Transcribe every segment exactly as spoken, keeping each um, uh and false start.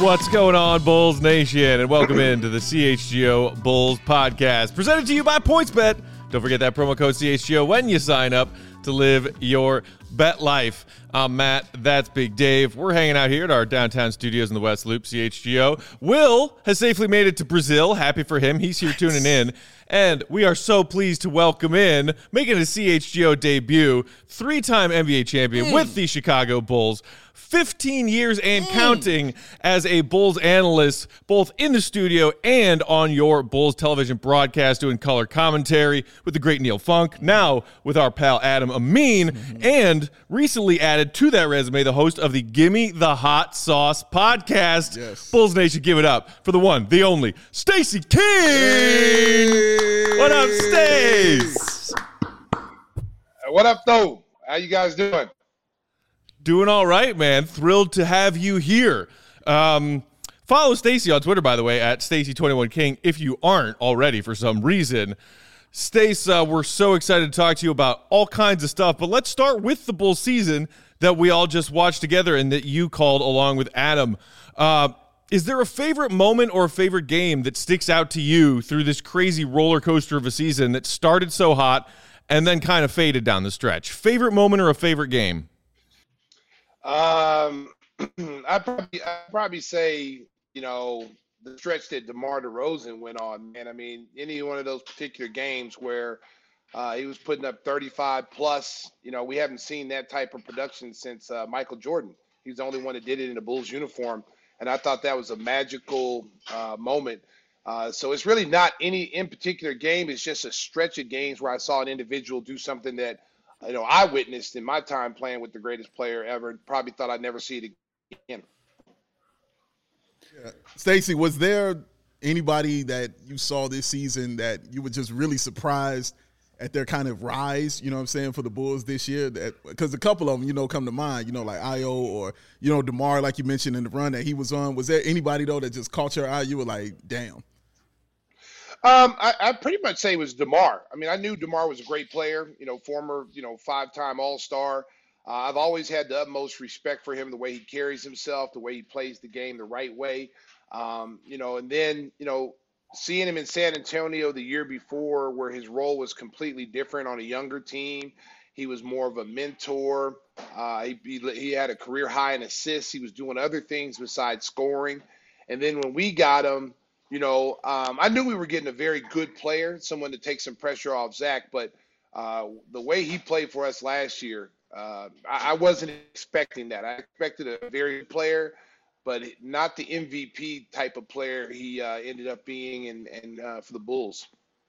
What's going on, Bulls Nation, and welcome into the C H G O Bulls podcast, presented to you by PointsBet. Don't forget that promo code C H G O when you sign up to live your bet life. I'm Matt, that's Big Dave. We're hanging out here at our downtown studios in the West Loop, C H G O. Will has safely made it to Brazil. Happy for him. He's here tuning in. And we are so pleased to welcome in, making a C H G O debut, three-time N B A champion mm. with the Chicago Bulls, fifteen years and mm. counting as a Bulls analyst, both in the studio and on your Bulls television broadcast, doing color commentary with the great Neil Funk, now with our pal Adam Amin, mm-hmm. and recently added to that resume, the host of the Gimme the Hot Sauce podcast. Yes. Bulls Nation, give it up for the one, the only, Stacey King! Hey. What up, Stace? What up, though? How you guys doing? Doing all right, man. Thrilled to have you here. Um, follow Stacey on Twitter, by the way, at Stacey twenty-one King, if you aren't already for some reason. Stace, uh, we're so excited to talk to you about all kinds of stuff, but let's start with the Bulls season that we all just watched together and that you called along with Adam. Uh, is there a favorite moment or a favorite game that sticks out to you through this crazy roller coaster of a season that started so hot and then kind of faded down the stretch? Favorite moment or a favorite game? Um, I'd probably, I'd probably say, you know, the stretch that DeMar DeRozan went on, man. I mean, any one of those particular games where uh, he was putting up thirty-five plus, you know, we haven't seen that type of production since uh, Michael Jordan. He's the only one that did it in a Bulls uniform. And I thought that was a magical uh, moment. Uh, so it's really not any in particular game. It's just a stretch of games where I saw an individual do something that, you know, I witnessed in my time playing with the greatest player ever. Probably thought I'd never see it again. Yeah. Stacey, was there anybody that you saw this season that you were just really surprised at their kind of rise, you know what I'm saying, for the Bulls this year? That because a couple of them, you know, come to mind, you know, like I O or, you know, DeMar, like you mentioned in the run that he was on. Was there anybody, though, that just caught your eye? You were like, damn. Um, I, I pretty much say it was DeMar. I mean, I knew DeMar was a great player, you know, former, you know, five-time All-Star. Uh, I've always had the utmost respect for him, the way he carries himself, the way he plays the game the right way. Um, you know, and then, you know, seeing him in San Antonio the year before where his role was completely different on a younger team. He was more of a mentor. Uh, he, he, he had a career high in assists. He was doing other things besides scoring. And then when we got him, you know, um, I knew we were getting a very good player, someone to take some pressure off Zach, but uh, the way he played for us last year, uh, I, I wasn't expecting that. I expected a very good player, but not the M V P type of player he uh, ended up being and, and uh, for the Bulls.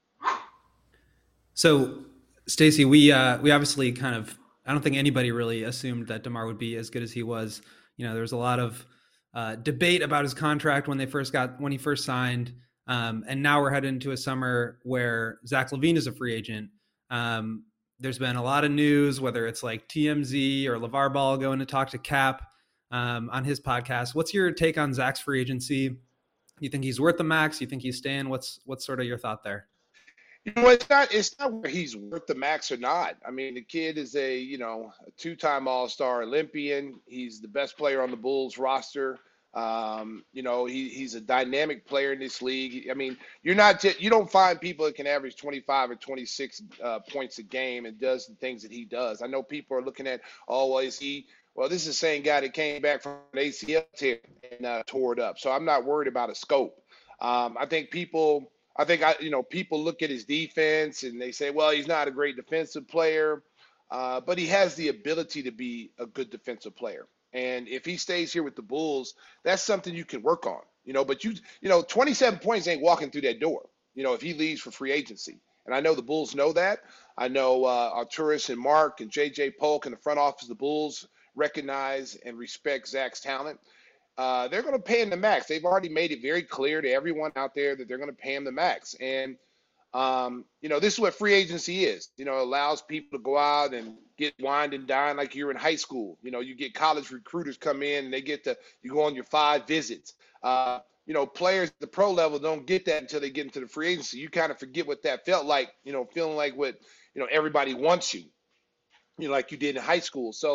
So, Stacey, we uh, we obviously kind of, I don't think anybody really assumed that DeMar would be as good as he was. You know, there was a lot of Uh, debate about his contract when they first got when he first signed, um, and now we're headed into a summer where Zach LaVine is a free agent. Um, there's been a lot of news, whether it's like T M Z or LeVar Ball going to talk to Cap um, on his podcast. What's your take on Zach's free agency? You think he's worth the max? You think he's staying? What's what's sort of your thought there? You know, it's not it's not where he's worth the max or not. I mean, the kid is a, you know, a two-time All-Star Olympian. He's the best player on the Bulls roster. Um, you know, he he's a dynamic player in this league. I mean, you're not just, you don't find people that can average twenty-five or twenty-six uh, points a game and does the things that he does. I know people are looking at, oh, well, is he well, this is the same guy that came back from an A C L tear and uh, tore it up. So I'm not worried about a scope. Um, I think people I think, I, you know, people look at his defense and they say, well, he's not a great defensive player, uh, but he has the ability to be a good defensive player. And if he stays here with the Bulls, that's something you can work on, you know, but you, you know, twenty-seven points ain't walking through that door, you know, if he leaves for free agency. And I know the Bulls know that. I know uh, Arturas and Mark and J J Polk in the front office of the Bulls recognize and respect Zach's talent. Uh, they're going to pay him the max. They've already made it very clear to everyone out there that they're going to pay him the max. And, um, you know, this is what free agency is. You know, it allows people to go out and get wined and dine like you're in high school. You know, you get college recruiters come in and they get to, you go on your five visits. Uh, you know, players at the pro level don't get that until they get into the free agency. You kind of forget what that felt like, you know, feeling like what, you know, everybody wants you, you know, like you did in high school. So,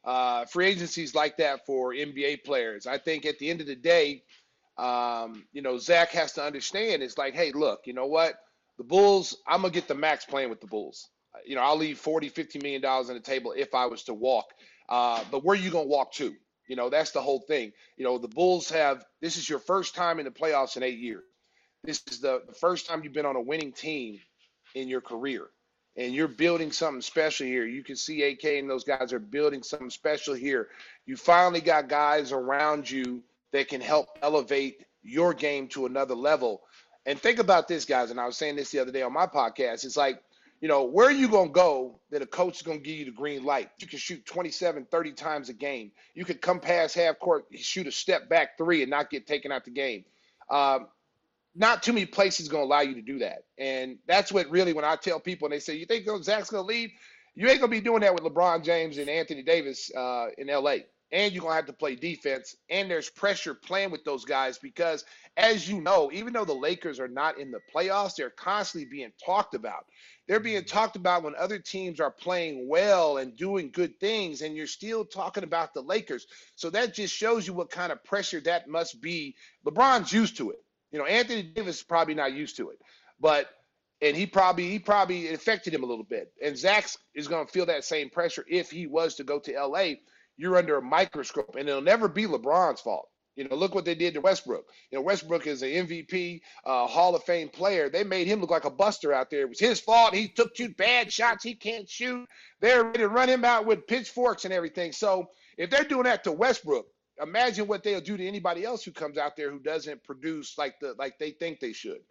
Uh, free agency is like that for N B A players. I think at the end of the day, um, you know, Zach has to understand it's like, hey, look, you know what? The Bulls, I'm going to get the max playing with the Bulls. You know, I'll leave forty, fifty million dollars on the table if I was to walk. Uh, but where are you going to walk to? You know, that's the whole thing. You know, the Bulls have, this is your first time in the playoffs in eight years. This is the, the first time you've been on a winning team in your career. And you're building something special here. You can see A K and those guys are building something special here. You finally got guys around you that can help elevate your game to another level. And think about this, guys, and I was saying this the other day on my podcast. It's like, you know, where are you going to go that a coach is going to give you the green light? You can shoot twenty-seven, thirty times a game. You could come past half court, shoot a step back three and not get taken out the game. Um, not too many places going to allow you to do that. And that's what really, when I tell people and they say, you think Zach's going to leave? You ain't going to be doing that with LeBron James and Anthony Davis uh, in L A. And you're going to have to play defense. And there's pressure playing with those guys because, as you know, even though the Lakers are not in the playoffs, they're constantly being talked about. They're being talked about when other teams are playing well and doing good things, and you're still talking about the Lakers. So that just shows you what kind of pressure that must be. LeBron's used to it. You know, Anthony Davis is probably not used to it. But and he probably he probably it affected him a little bit. And Zach is going to feel that same pressure if he was to go to L A. You're under a microscope, and it'll never be LeBron's fault. You know, look what they did to Westbrook. You know, Westbrook is an M V P, uh, Hall of Fame player. They made him look like a buster out there. It was his fault. He took two bad shots. He can't shoot. They're ready to run him out with pitchforks and everything. So if they're doing that to Westbrook, imagine what they'll do to anybody else who comes out there who doesn't produce like the like they think they should.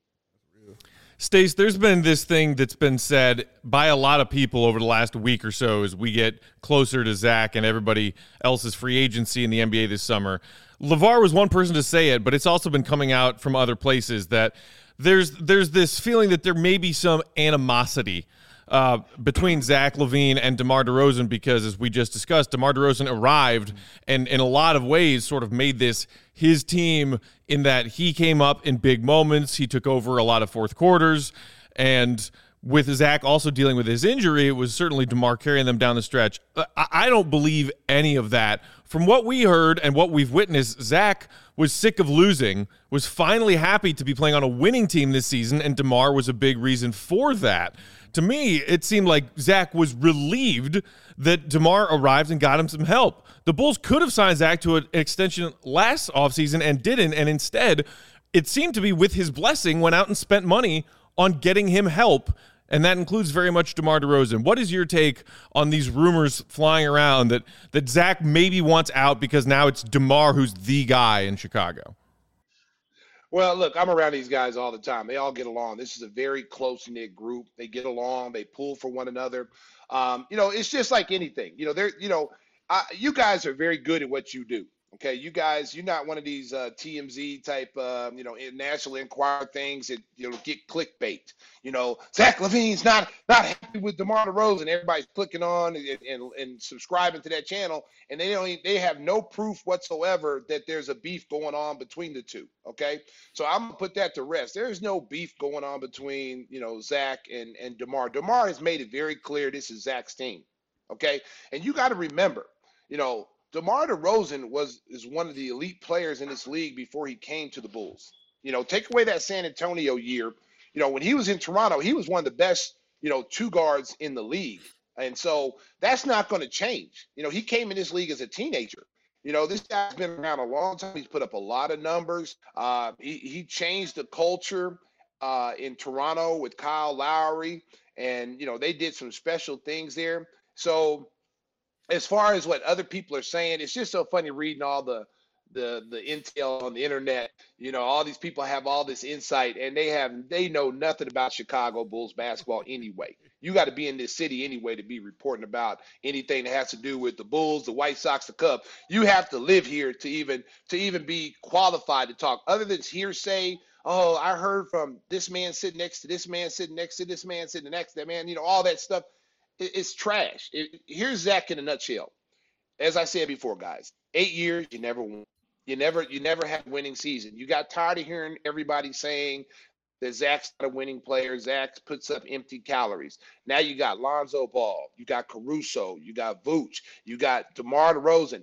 Stace, there's been this thing that's been said by a lot of people over the last week or so as we get closer to Zach and everybody else's free agency in the N B A this summer. LeVar was one person to say it, but it's also been coming out from other places that there's there's this feeling that there may be some animosity uh, between Zach LaVine and DeMar DeRozan because, as we just discussed, DeMar DeRozan arrived and in a lot of ways sort of made this his team in that he came up in big moments. He took over a lot of fourth quarters. And with Zach also dealing with his injury, it was certainly DeMar carrying them down the stretch. I, I don't believe any of that. From what we heard and what we've witnessed, Zach was sick of losing, was finally happy to be playing on a winning team this season, and DeMar was a big reason for that. To me, it seemed like Zach was relieved that DeMar arrived and got him some help. The Bulls could have signed Zach to an extension last offseason and didn't, and instead, it seemed to be with his blessing, went out and spent money on getting him help, and that includes very much DeMar DeRozan. What is your take on these rumors flying around that, that Zach maybe wants out because now it's DeMar who's the guy in Chicago? Well, look, I'm around these guys all the time. They all get along. This is a very close-knit group. They get along. They pull for one another. Um, you know, it's just like anything. You know, they're, you know, I, you guys are very good at what you do. Okay, you guys, you're not one of these uh, T M Z type, uh, you know, National Enquirer things that, you know, get clickbait. You know, Zach LaVine's not not happy with DeMar DeRozan. Everybody's clicking on and, and, and subscribing to that channel, and they don't, they have no proof whatsoever that there's a beef going on between the two. Okay, so I'm gonna put that to rest. There's no beef going on between, you know, Zach and and DeMar. DeMar has made it very clear this is Zach's team. Okay, and you got to remember, you know, DeMar DeRozan was is one of the elite players in this league before he came to the Bulls. You know, take away that San Antonio year. You know, when he was in Toronto, he was one of the best, you know, two guards in the league. And so that's not going to change. You know, he came in this league as a teenager. You know, this guy's been around a long time. He's put up a lot of numbers. Uh, he, he changed the culture uh, in Toronto with Kyle Lowry. And, you know, they did some special things there. So as far as what other people are saying, it's just so funny reading all the the the intel on the internet. You know, all these people have all this insight, and they have they know nothing about Chicago Bulls basketball anyway. You got to be in this city anyway to be reporting about anything that has to do with the Bulls, the White Sox, the Cubs. You have to live here to even to even be qualified to talk. Other than hearsay, oh, I heard from this man sitting next to this man sitting next to this man sitting next to that man. You know, all that stuff. It's trash. It, here's Zach in a nutshell. As I said before, guys, eight years, you never won. You never, you never had a winning season. You got tired of hearing everybody saying that Zach's not a winning player. Zach puts up empty calories. Now you got Lonzo Ball, you got Caruso, you got Vooch, you got DeMar DeRozan.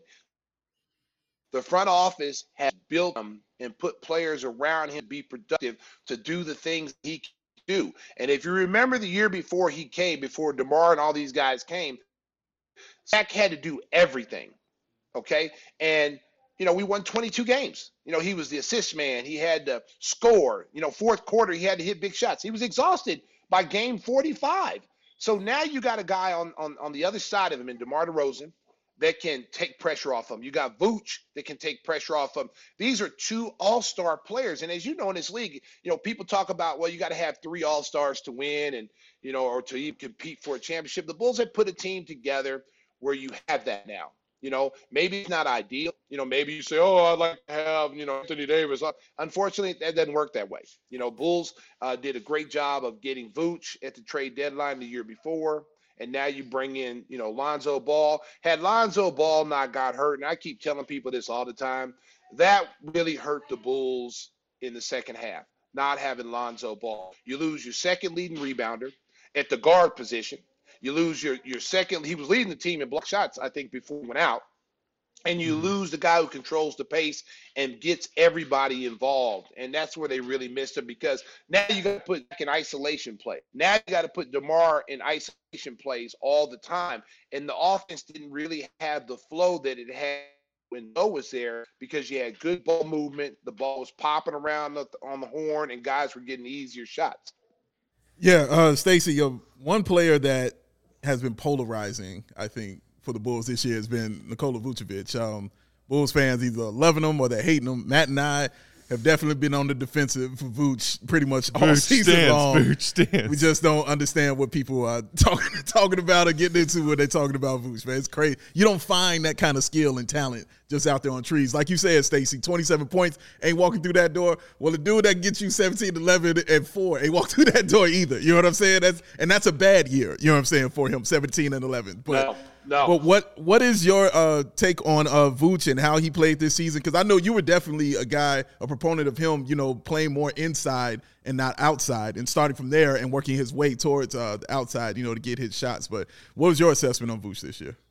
The front office has built him and put players around him to be productive, to do the things he can do. And if you remember the year before he came, before DeMar and all these guys came, Zach had to do everything, okay? And, you know, we won twenty-two games. You know, he was the assist man. He had to score. You know, fourth quarter, he had to hit big shots. He was exhausted by game forty-five. So now you got a guy on, on, on the other side of him in DeMar DeRozan that can take pressure off him. You got Vooch that can take pressure off him. These are two all-star players. And as you know, in this league, you know, people talk about, well, you got to have three all-stars to win and, you know, or to even compete for a championship. The Bulls have put a team together where you have that now. You know, maybe it's not ideal. You know, maybe you say, oh, I'd like to have, you know, Anthony Davis. Unfortunately, that doesn't work that way. You know, Bulls uh, did a great job of getting Vooch at the trade deadline the year before. And now you bring in, you know, Lonzo Ball. Had Lonzo Ball not got hurt, and I keep telling people this all the time, that really hurt the Bulls in the second half, not having Lonzo Ball. You lose your second leading rebounder at the guard position. You lose your, your second – he was leading the team in block shots, I think, before he went out. And you lose the guy who controls the pace and gets everybody involved. And that's where they really missed him, because now you got to put back in isolation play. Now you got to put DeMar in isolation plays all the time. And the offense didn't really have the flow that it had when Noah was there, because you had good ball movement. The ball was popping around the, on the horn, and guys were getting easier shots. Yeah, uh, Stacey, uh, one player that has been polarizing, I think, for the Bulls this year has been Nikola Vucevic. Um, Bulls fans either loving him or they're hating him. Matt and I have definitely been on the defensive for Vooch pretty much all Vooch season stands, long. Vooch stands. We just don't understand what people are talking talking about or getting into when they're talking about Vooch, man. It's crazy. You don't find that kind of skill and talent just out there on trees. Like you said, Stacey, twenty-seven points, ain't walking through that door. Well, the dude that gets you seventeen, eleven, and four ain't walk through that door either. You know what I'm saying? That's And that's a bad year, you know what I'm saying, for him, seventeen and eleven. But no. No. But what what is your uh, take on uh, Vooch and how he played this season? Because I know you were definitely a guy, a proponent of him, you know, playing more inside and not outside, and starting from there and working his way towards uh, the outside, you know, to get his shots. But what was your assessment on Vooch this year?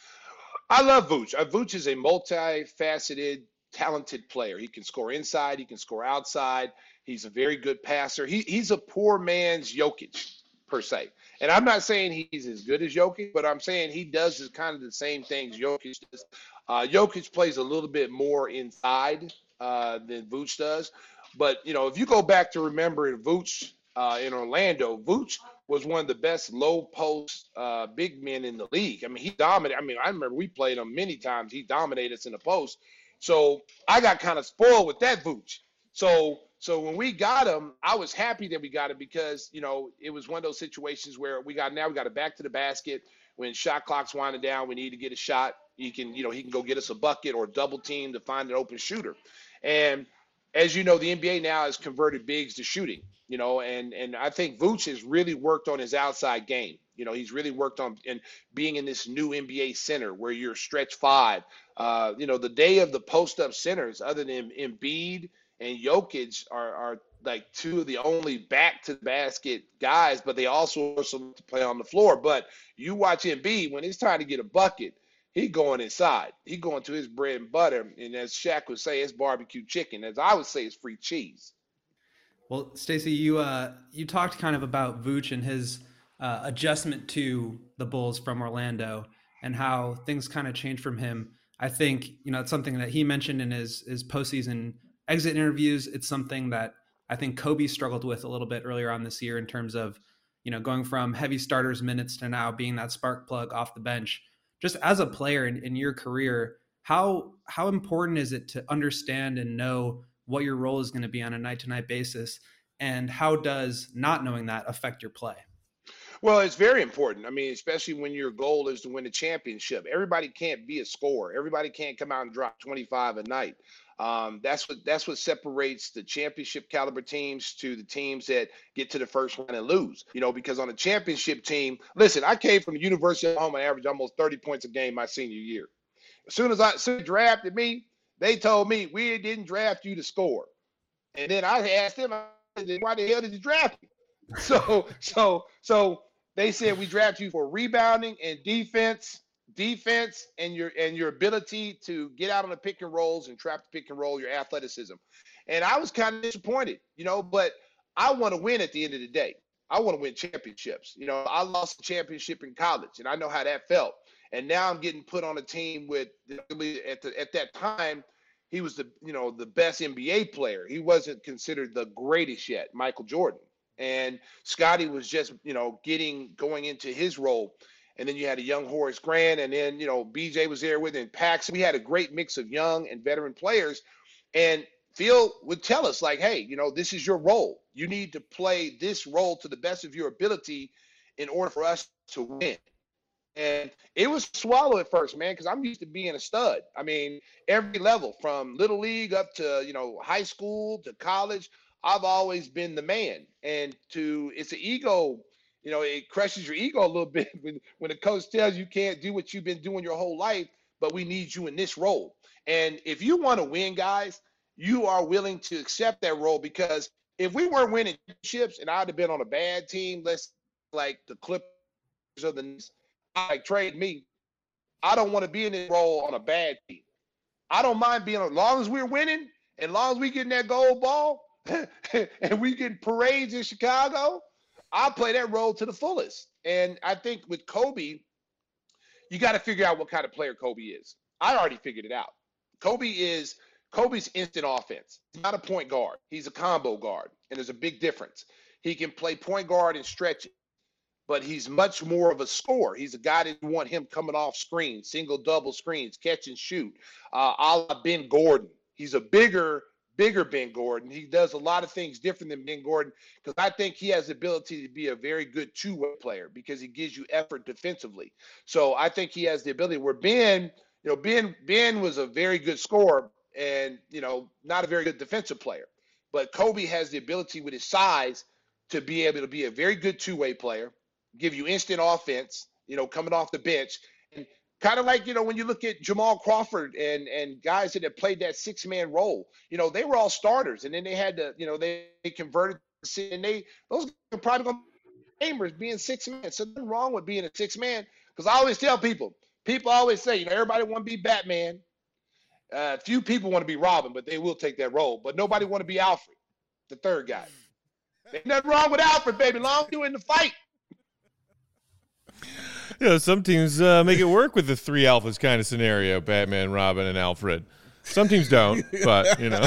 I love Vooch. Uh, Vooch is a multifaceted, talented player. He can score inside. He can score outside. He's a very good passer. He, he's a poor man's Jokic, per se. And I'm not saying he's as good as Jokic, but I'm saying he does kind of the same things Jokic does. Uh, Jokic plays a little bit more inside uh, than Vooch does. But, you know, if you go back to remember Vooch uh, in Orlando, Vooch was one of the best low-post uh, big men in the league. I mean, he dominated. I mean, I remember we played him many times. He dominated us in the post. So I got kind of spoiled with that Vooch. So So when we got him, I was happy that we got him, because, you know, it was one of those situations where we got now we got to back to the basket. When shot clock's winding down, we need to get a shot. He can, you know, he can go get us a bucket or double team to find an open shooter. And as you know, the N B A now has converted bigs to shooting, you know, and and I think Vooch has really worked on his outside game. You know, he's really worked on and being in this new N B A center where you're stretch five. Uh, you know, the day of the post-up centers, other than Embiid and Jokic, are, are like two of the only back to the basket guys, but they also also play on the floor. But you watch Embiid, when it's time to get a bucket, he going inside. He going to his bread and butter. And as Shaq would say, it's barbecue chicken. As I would say, it's free cheese. Well, Stacey, you uh, you talked kind of about Vooch and his uh, adjustment to the Bulls from Orlando and how things kind of changed from him. I think, you know, it's something that he mentioned in his, his postseason exit interviews. It's something that I think Kobe struggled with a little bit earlier on this year in terms of, you know, going from heavy starters minutes to now being that spark plug off the bench. Just as a player in, in your career, how how important is it to understand and know what your role is going to be on a night-to-night basis? And how does not knowing that affect your play? Well, it's very important. I mean, especially when your goal is to win a championship. Everybody can't be a scorer. Everybody can't come out and drop twenty-five a night. Um, that's what that's what separates the championship caliber teams to the teams that get to the first round and lose. You know, because on a championship team, listen, I came from the University of Oklahoma, average almost thirty points a game my senior year. As soon as I as soon as they drafted me, they told me we didn't draft you to score. And then I asked them, why the hell did you draft me? So, so, so they said we draft you for rebounding and defense, defense, and your and your ability to get out on the pick and rolls and trap the pick and roll, your athleticism. And I was kind of disappointed, you know, but I want to win at the end of the day. I want to win championships. You know, I lost a championship in college, and I know how that felt. And now I'm getting put on a team with at the, at that time, he was the you know the best N B A player. He wasn't considered the greatest yet, Michael Jordan. And Scottie was just you know getting going into his role. And then you had a young Horace Grant, and then you know B J was there with him, Paxson. We had a great mix of young and veteran players. And Phil would tell us like, hey, you know, this is your role. You need to play this role to the best of your ability in order for us to win. And it was swallow at first, man, because I'm used to being a stud. I mean, every level from little league up to, you know, high school to college, I've always been the man. And to it's an ego, you know, it crushes your ego a little bit when, when the coach tells you can't do what you've been doing your whole life, but we need you in this role. And if you want to win, guys, you are willing to accept that role, because if we weren't winning championships and I'd have been on a bad team, let's like the Clippers or the like trade me, I don't want to be in this role on a bad team. I don't mind being, as long as we're winning, and as long as we getting that gold ball and we getting parades in Chicago, I'll play that role to the fullest. And I think with Kobe, you got to figure out what kind of player Kobe is. I already figured it out. Kobe is Kobe's instant offense. He's not a point guard. He's a combo guard, and there's a big difference. He can play point guard and stretch it, but he's much more of a scorer. He's a guy that you want him coming off screens, single, double screens, catch and shoot, uh, a la Ben Gordon. He's a bigger, bigger Ben Gordon. He does a lot of things different than Ben Gordon, because I think he has the ability to be a very good two-way player because he gives you effort defensively. So I think he has the ability where Ben, you know, Ben, Ben was a very good scorer and, you know, not a very good defensive player. But Kobe has the ability with his size to be able to be a very good two-way player, give you instant offense, you know, coming off the bench. And kind of like, you know, when you look at Jamal Crawford and and guys that have played that six-man role, you know, they were all starters. And then they had to, you know, they, they converted, and they, those are probably going to be gamers being six-man. So nothing wrong with being a six-man, because I always tell people, people always say, you know, everybody want to be Batman. Uh, few people want to be Robin, but they will take that role. But nobody want to be Alfred, the third guy. Ain't nothing wrong with Alfred, baby, long as you in the fight. You know, some teams uh, make it work with the three alphas kind of scenario, Batman, Robin, and Alfred. Some teams don't, but, you know.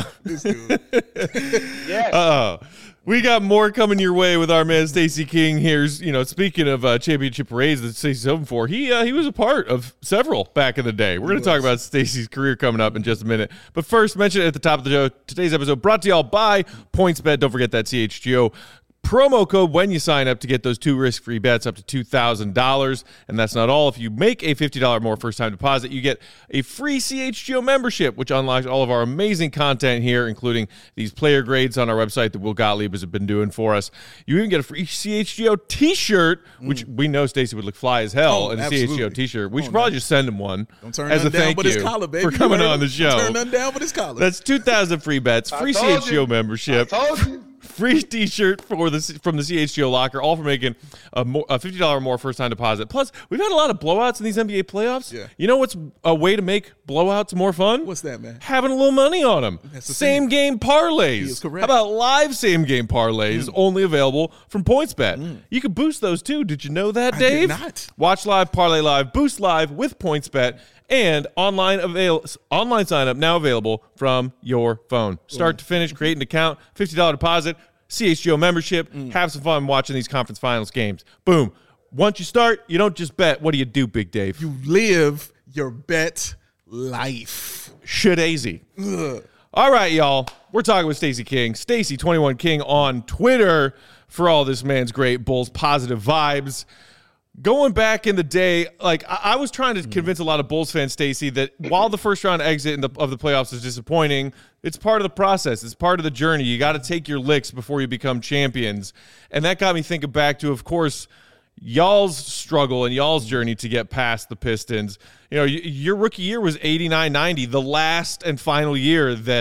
Yes. Uh-oh. We got more coming your way with our man Stacey King. Here's, you know, speaking of uh, championship parades that Stacey's hoping for, he uh, he was a part of several back in the day. We're going to talk about Stacey's career coming up in just a minute. But first, mention it at the top of the show. Today's episode brought to y'all by PointsBet. Don't forget that C H G O promo code when you sign up to get those two risk-free bets up to two thousand dollars. And that's not all. If you make a fifty dollars more first-time deposit, you get a free C H G O membership, which unlocks all of our amazing content here, including these player grades on our website that Will Gottlieb has been doing for us. You even get a free C H G O t-shirt, which mm. we know Stacey would look fly as hell oh, in a absolutely. C H G O t-shirt. We oh, should probably no. just send him one Don't turn as a down thank but you his collar, baby. for coming on the show. Don't turn nothing down but his collar. That's two thousand free bets, free C H G O you. membership. I told you. Free t-shirt for the from the C H G O locker, all for making a, more, a fifty dollars or more first-time deposit. Plus, we've had a lot of blowouts in these N B A playoffs. Yeah. You know what's a way to make blowouts more fun? What's that, man? Having a little money on them. That's the Same-game parlays. He is correct. How about live same-game parlays Mm. only available from PointsBet? Mm. You can boost those, too. Did you know that, I Dave? did not. Watch live, parlay live, boost live with PointsBet. And online avail- online sign-up now available from your phone. Start Ooh. to finish, create an account, fifty dollars deposit, C H G O membership, Mm. have some fun watching these conference finals games. Boom. Once you start, you don't just bet. What do you do, Big Dave? You live your bet life. Shit easy. All right, y'all. We're talking with Stacey King. Stacey twenty-one King on Twitter for all this man's great Bulls positive vibes. Going back in the day, like I, I was trying to convince a lot of Bulls fans, Stacey, that while the first round exit in the, of the playoffs is disappointing, it's part of the process. It's part of the journey. You got to take your licks before you become champions. And that got me thinking back to, of course, y'all's struggle and y'all's journey to get past the Pistons. You know, y- your rookie year was eighty-nine ninety, the last and final year that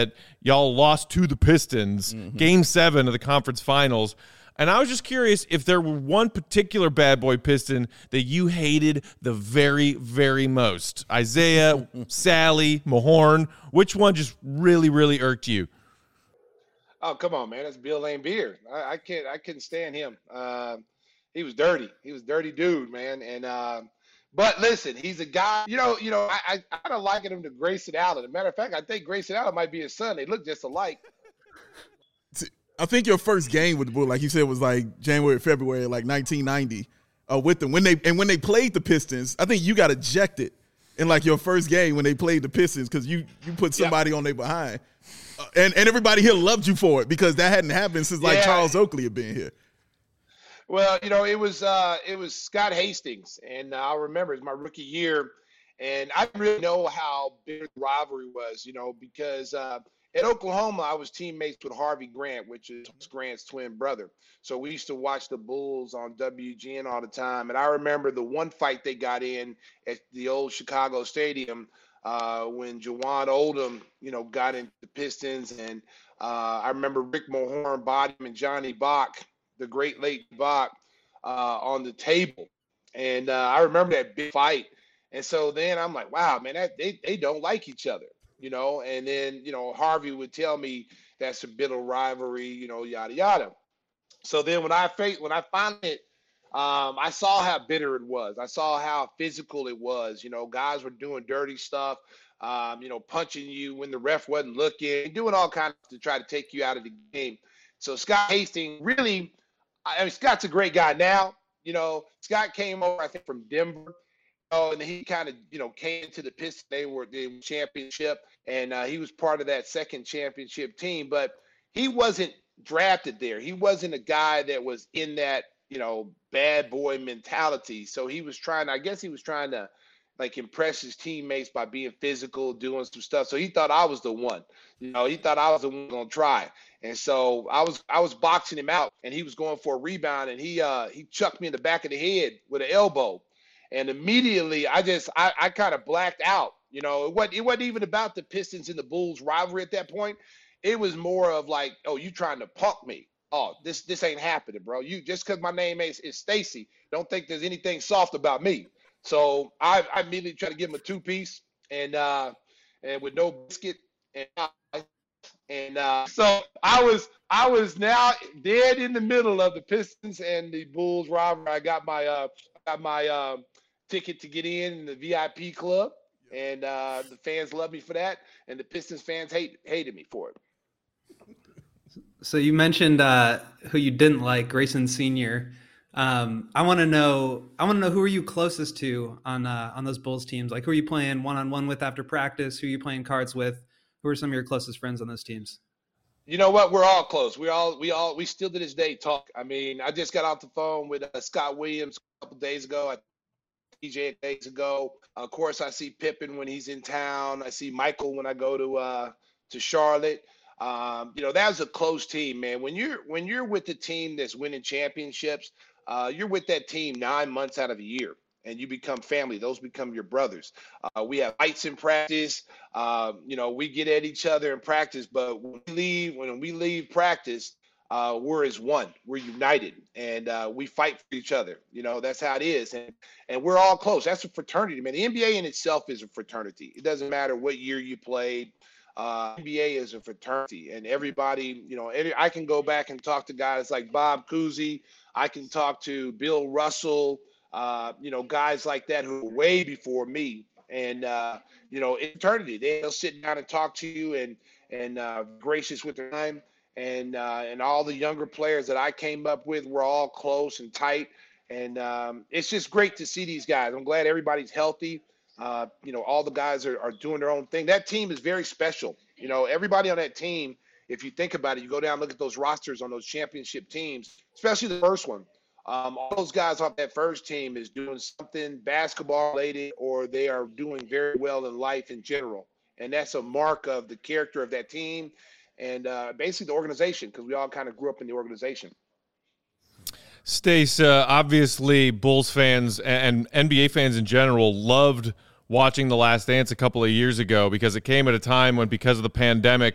y'all lost to the Pistons, mm-hmm. game seven of the conference finals. And I was just curious if there were one particular bad boy Piston that you hated the very, very most. Isaiah, Sally, Mahorn, which one just really, really irked you? Oh, come on, man. That's Bill Laimbeer. I, I can't I couldn't stand him. Uh, he was dirty. He was a dirty dude, man. And uh, but listen, he's a guy, you know, you know, I I, I kind of liken him to Grayson Allen. As a matter of fact, I think Grayson Allen might be his son. They look just alike. I think your first game with the Bulls, like you said, was like January, February, like nineteen ninety, uh, with them. When they and when they played the Pistons, I think you got ejected in like your first game when they played the Pistons because you you put somebody yep. on their behind, uh, and and everybody here loved you for it because that hadn't happened since like yeah. Charles Oakley had been here. Well, you know, it was uh, it was Scott Hastings, and uh, I remember it was my rookie year, and I didn't really know how big the rivalry was, you know, because. Uh, At Oklahoma, I was teammates with Harvey Grant, which is Grant's twin brother. So we used to watch the Bulls on W G N all the time. And I remember the one fight they got in at the old Chicago Stadium uh, when Jawan Oldham, you know, got into the Pistons. And uh, I remember Rick Mahorn, Bodham, and Johnny Bach, the great late Bach, uh, on the table. And uh, I remember that big fight. And so then I'm like, wow, man, that, they, they don't like each other. You know, and then, you know, Harvey would tell me that's a bitter rivalry, you know, yada, yada. So then when I when I found it, um, I saw how bitter it was. I saw how physical it was. You know, guys were doing dirty stuff, um, you know, punching you when the ref wasn't looking, doing all kinds to try to take you out of the game. So Scott Hastings really, I mean, Scott's a great guy now. You know, Scott came over, I think, from Denver. Oh, and he kind of, you know, came to the Pistons. They were the championship, and uh, he was part of that second championship team. But he wasn't drafted there. He wasn't a guy that was in that, you know, bad boy mentality. So he was trying, I guess he was trying to, like, impress his teammates by being physical, doing some stuff. So he thought I was the one. You know, he thought I was the one going to try. And so I was I was boxing him out, and he was going for a rebound, and he uh, he chucked me in the back of the head with an elbow. And immediately, I just, I, I kind of blacked out. You know, it wasn't, it wasn't even about the Pistons and the Bulls rivalry at that point. It was more of like, oh, you trying to punk me. Oh, this this ain't happening, bro. You just because my name is, is Stacy, don't think there's anything soft about me. So I, I immediately tried to give him a two-piece and uh, and with no biscuit. And, and uh, so I was I was now dead in the middle of the Pistons and the Bulls rivalry. I got my uh, got my uh, ticket to get in, in the V I P club, and uh, the fans love me for that, and the Pistons fans hate hated me for it. So you mentioned uh, who you didn't like, Grayson Senior Um, I want to know. I want to know who are you closest to on uh, on those Bulls teams? Like, who are you playing one on one with after practice? Who are you playing cards with? Who are some of your closest friends on those teams? You know what? We're all close. We all, we all, we still to this day talk. I mean, I just got off the phone with uh, Scott Williams a couple days ago. I P J days ago. Of course, I see Pippen when he's in town. I see Michael when I go to uh, to Charlotte. Um, you know, that was a close team, man. When you're when you're with the team that's winning championships, uh, you're with that team nine months out of a year, and you become family. Those become your brothers. Uh, we have fights in practice. Uh, you know, we get at each other in practice, but when we leave, when we leave practice, uh, we're as one. We're united, and uh, we fight for each other. You know, that's how it is, and and we're all close. That's a fraternity, man. The N B A in itself is a fraternity. It doesn't matter what year you played. Uh, N B A is a fraternity, and everybody, you know, every, I can go back and talk to guys like Bob Cousy. I can talk to Bill Russell. Uh, you know, guys like that who were way before me, and uh, you know, eternity. They'll sit down and talk to you, and and uh, gracious with their time, and uh, and all the younger players that I came up with were all close and tight, and um, it's just great to see these guys. I'm glad everybody's healthy. Uh, you know, all the guys are, are doing their own thing. That team is very special. You know, everybody on that team, if you think about it, you go down and look at those rosters on those championship teams, especially the first one. Um, all those guys off that first team is doing something basketball related, or they are doing very well in life in general. And that's a mark of the character of that team and uh, basically the organization, because we all kind of grew up in the organization. Stace, uh, obviously Bulls fans and N B A fans in general loved watching The Last Dance a couple of years ago because it came at a time when, because of the pandemic,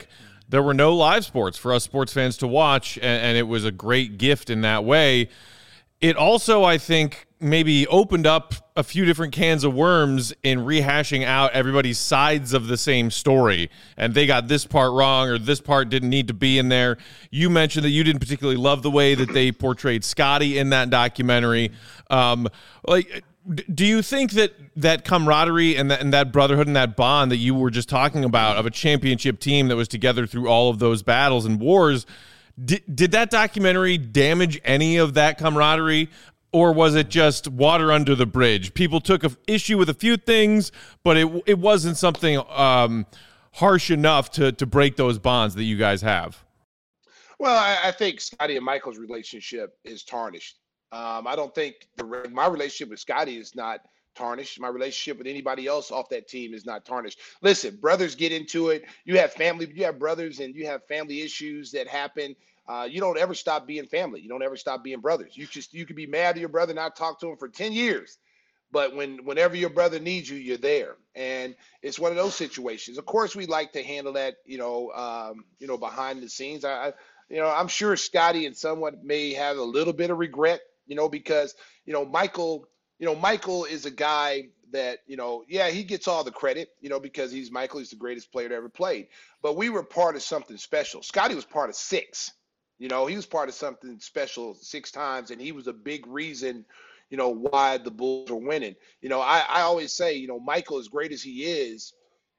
there were no live sports for us sports fans to watch, and, and it was a great gift in that way. It also, I think, maybe opened up a few different cans of worms in rehashing out everybody's sides of the same story. And they got this part wrong, or this part didn't need to be in there. You mentioned that you didn't particularly love the way that they portrayed Scottie in that documentary. Um, like, do you think that that camaraderie and that, and that brotherhood and that bond that you were just talking about of a championship team that was together through all of those battles and wars, Did, did that documentary damage any of that camaraderie, or was it just water under the bridge? People took a, issue with a few things, but it it wasn't something um, harsh enough to to break those bonds that you guys have. Well, I, I think Scottie and Michael's relationship is tarnished. Um, I don't think the my relationship with Scottie is not tarnished. My relationship with anybody else off that team is not tarnished. Listen, brothers get into it. You have family, you have brothers, and you have family issues that happen. Uh, you don't ever stop being family. You don't ever stop being brothers. You just you could be mad at your brother, not talk to him for ten years. But when whenever your brother needs you, you're there. And it's one of those situations. Of course, we like to handle that, you know, um, you know, behind the scenes. I, I you know, I'm sure Scottie and someone may have a little bit of regret, you know, because, you know, Michael, you know, Michael is a guy that, you know, yeah, he gets all the credit, you know, because he's Michael, he's the greatest player that ever played. But we were part of something special. Scottie was part of six. You know, he was part of something special six times, and he was a big reason, you know, why the Bulls are winning. You know, I, I always say, you know, Michael, as great as he is,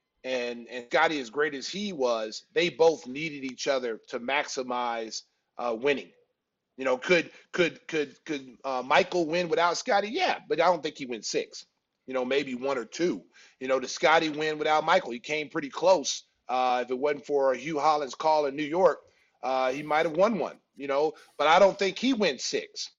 and and Scottie, as great as he was, they both needed each other to maximize uh, winning. You know, could could could could uh, Michael win without Scottie? Yeah, but I don't think he went six. You know, maybe one or two. You know, did Scottie win without Michael? He came pretty close. Uh, if it wasn't for Hugh Holland's call in New York, Uh, he might have won one, you know, but I don't think he went six.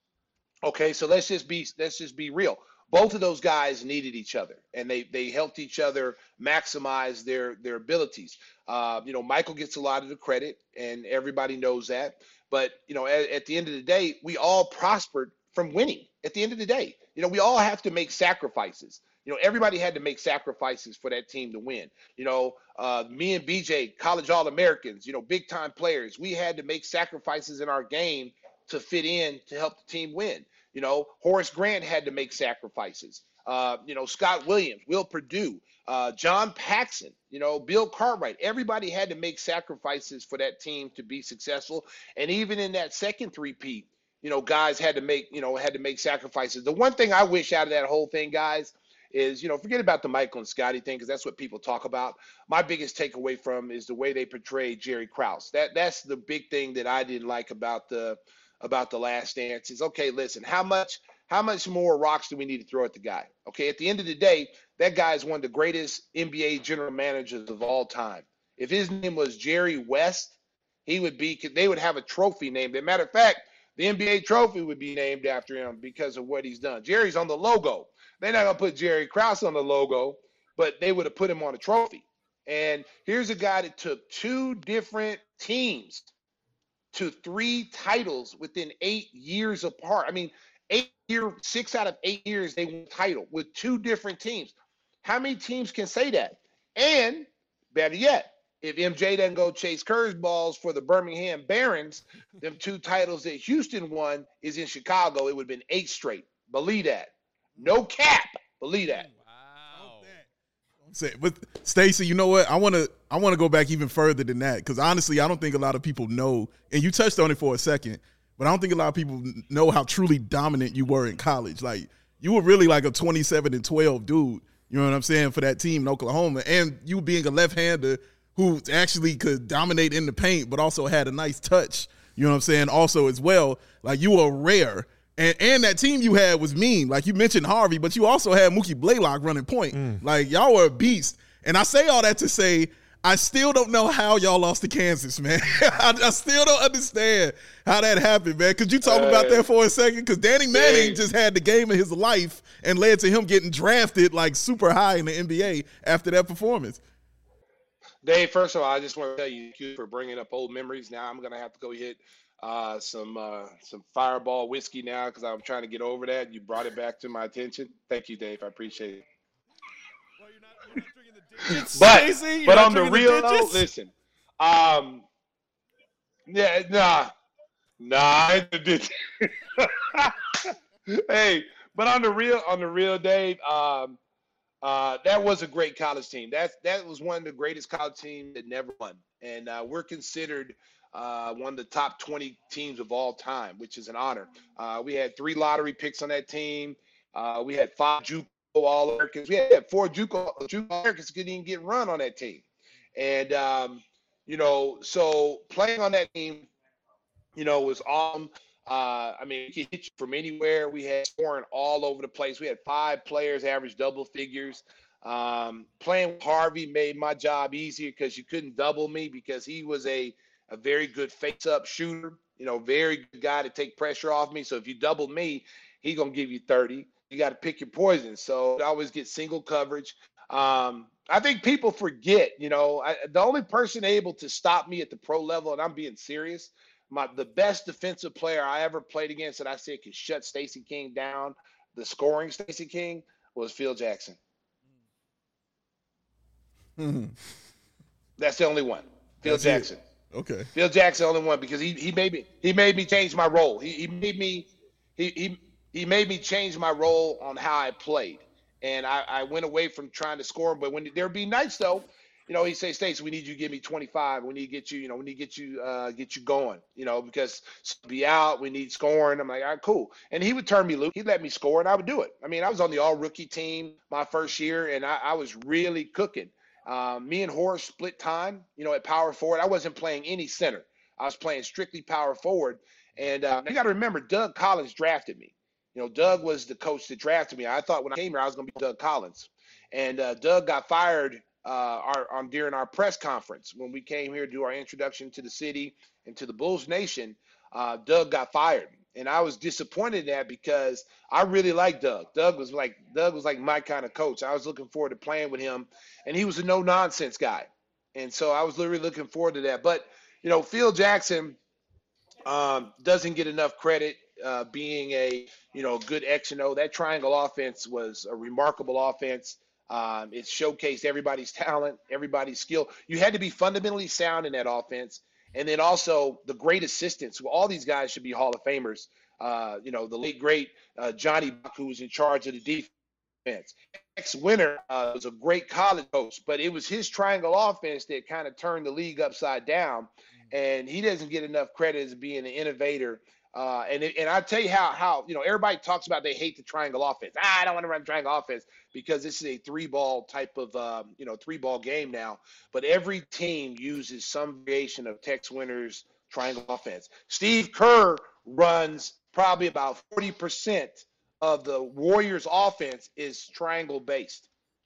Okay, so let's just be let's just be real. Both of those guys needed each other, and they they helped each other maximize their their abilities. Uh, you know, Michael gets a lot of the credit, and everybody knows that. But you know, at, at the end of the day, we all prospered from winning. At the end of the day, you know, we all have to make sacrifices. You know, everybody had to make sacrifices for that team to win. You know, uh, me and B J, college All-Americans, you know, big-time players. We had to make sacrifices in our game to fit in to help the team win. You know, Horace Grant had to make sacrifices. Uh, you know, Scott Williams, Will Perdue, uh, John Paxson, you know, Bill Cartwright. Everybody had to make sacrifices for that team to be successful. And even in that second three-peat, you know, guys had to make, you know, had to make sacrifices. The one thing I wish out of that whole thing, guys, is, you know, forget about the Michael and Scottie thing, because that's what people talk about. My biggest takeaway from is the way they portrayed Jerry Krause. That that's the big thing that I didn't like about the about the Last Dance is, okay, listen, how much how much more rocks do we need to throw at the guy? Okay, at the end of the day, that guy is one of the greatest N B A general managers of all time. If his name was Jerry West, he would be, they would have a trophy named. As a matter of fact, the N B A trophy would be named after him because of what he's done. Jerry's on the logo. They're not going to put Jerry Krause on the logo, but they would have put him on a trophy. And here's a guy that took two different teams to three titles within eight years apart. I mean, eight year, six out of eight years, they won a title with two different teams. How many teams can say that? And better yet, if M J doesn't go chase curveballs for the Birmingham Barons, them two titles that Houston won is in Chicago. It would have been eight straight. Believe that. No cap. Believe that. Wow. Don't say it. But Stacey, you know what? I want to I want to go back even further than that, because honestly, I don't think a lot of people know, and you touched on it for a second, but I don't think a lot of people know how truly dominant you were in college. Like, you were really like a twenty-seven and twelve dude, you know what I'm saying, for that team in Oklahoma. And you being a left-hander who actually could dominate in the paint, but also had a nice touch, you know what I'm saying, also as well. Like, you were rare. And and that team you had was mean. Like, you mentioned Harvey, but you also had Mookie Blaylock running point. Mm. Like, y'all were a beast. And I say all that to say, I still don't know how y'all lost to Kansas, man. I, I still don't understand how that happened, man. Could you talk uh, about that for a second? Because Danny Manning just had the game of his life and led to him getting drafted, like, super high in the N B A after that performance. Dave, first of all, I just want to tell you, thank you for bringing up old memories. Now I'm going to have to go hit uh, some uh, some Fireball whiskey now, because I'm trying to get over that. You brought it back to my attention. Thank you, Dave. I appreciate it. Well, you're not, you're not drinking the digits, but Stacey? but on the real note, listen, Um, yeah, nah, nah. I did. Hey, but on the real, on the real, Dave, um, uh, that was a great college team. That that was one of the greatest college teams that never won, and uh, we're considered uh, one of the top twenty teams of all time, which is an honor. Uh, we had three lottery picks on that team. Uh, we had five JUCO All-Americans. We had four JUCO, JUCO All-Americans couldn't even get run on that team, and um, you know, so playing on that team, you know, was awesome. Uh, I mean, he could hit you from anywhere. We had scoring all over the place. We had five players average double figures. Um, playing with Harvey made my job easier because you couldn't double me because he was a, a very good face-up shooter, you know, very good guy to take pressure off me. So if you double me, he's going to give you thirty. You got to pick your poison. So I always get single coverage. Um, I think people forget, you know, I, the only person able to stop me at the pro level, and I'm being serious, My the best defensive player I ever played against that I said could shut Stacey King down, the scoring Stacey King, was Phil Jackson. Mm-hmm. That's the only one. Phil That's Jackson. It. Okay. Phil Jackson, the only one, because he he made me he made me change my role. He he made me he he he made me change my role on how I played, and I, I went away from trying to score. But when there'd be nights though. You know, he say, Stacey, we need you to give me twenty-five. We need to get you, you know, we need to get you, uh, get you going, you know, because be out, we need scoring. I'm like, all right, cool. And he would turn me loose. He'd let me score, and I would do it. I mean, I was on the all-rookie team my first year, and I, I was really cooking. Um, me and Horace split time, you know, at power forward. I wasn't playing any center. I was playing strictly power forward. And uh, you got to remember, Doug Collins drafted me. You know, Doug was the coach that drafted me. I thought when I came here, I was going to be Doug Collins. And uh, Doug got fired Uh, our, um, during our press conference when we came here to do our introduction to the city and to the Bulls Nation. uh, Doug got fired, and I was disappointed in that because I really liked Doug. Doug was like Doug was like my kind of coach. I was looking forward to playing with him, and he was a no nonsense guy, and so I was literally looking forward to that. But you know, Phil Jackson um, doesn't get enough credit uh, being a you know good X and O. That triangle offense was a remarkable offense. Um, it showcased everybody's talent, everybody's skill. You had to be fundamentally sound in that offense. And then also the great assistants. Well, all these guys should be Hall of Famers. Uh, you know, the late, great uh, Johnny Buck, who was in charge of the defense. Tex Winter uh, was a great college coach, but it was his triangle offense that kind of turned the league upside down. And he doesn't get enough credit as being an innovator. Uh, and it, and I tell you how how you know everybody talks about they hate the triangle offense. Ah, I don't want to run triangle offense because this is a three ball type of um, you know three ball game now. But every team uses some variation of Tex Winter's triangle offense. Steve Kerr runs probably about forty percent of the Warriors' offense is triangle based.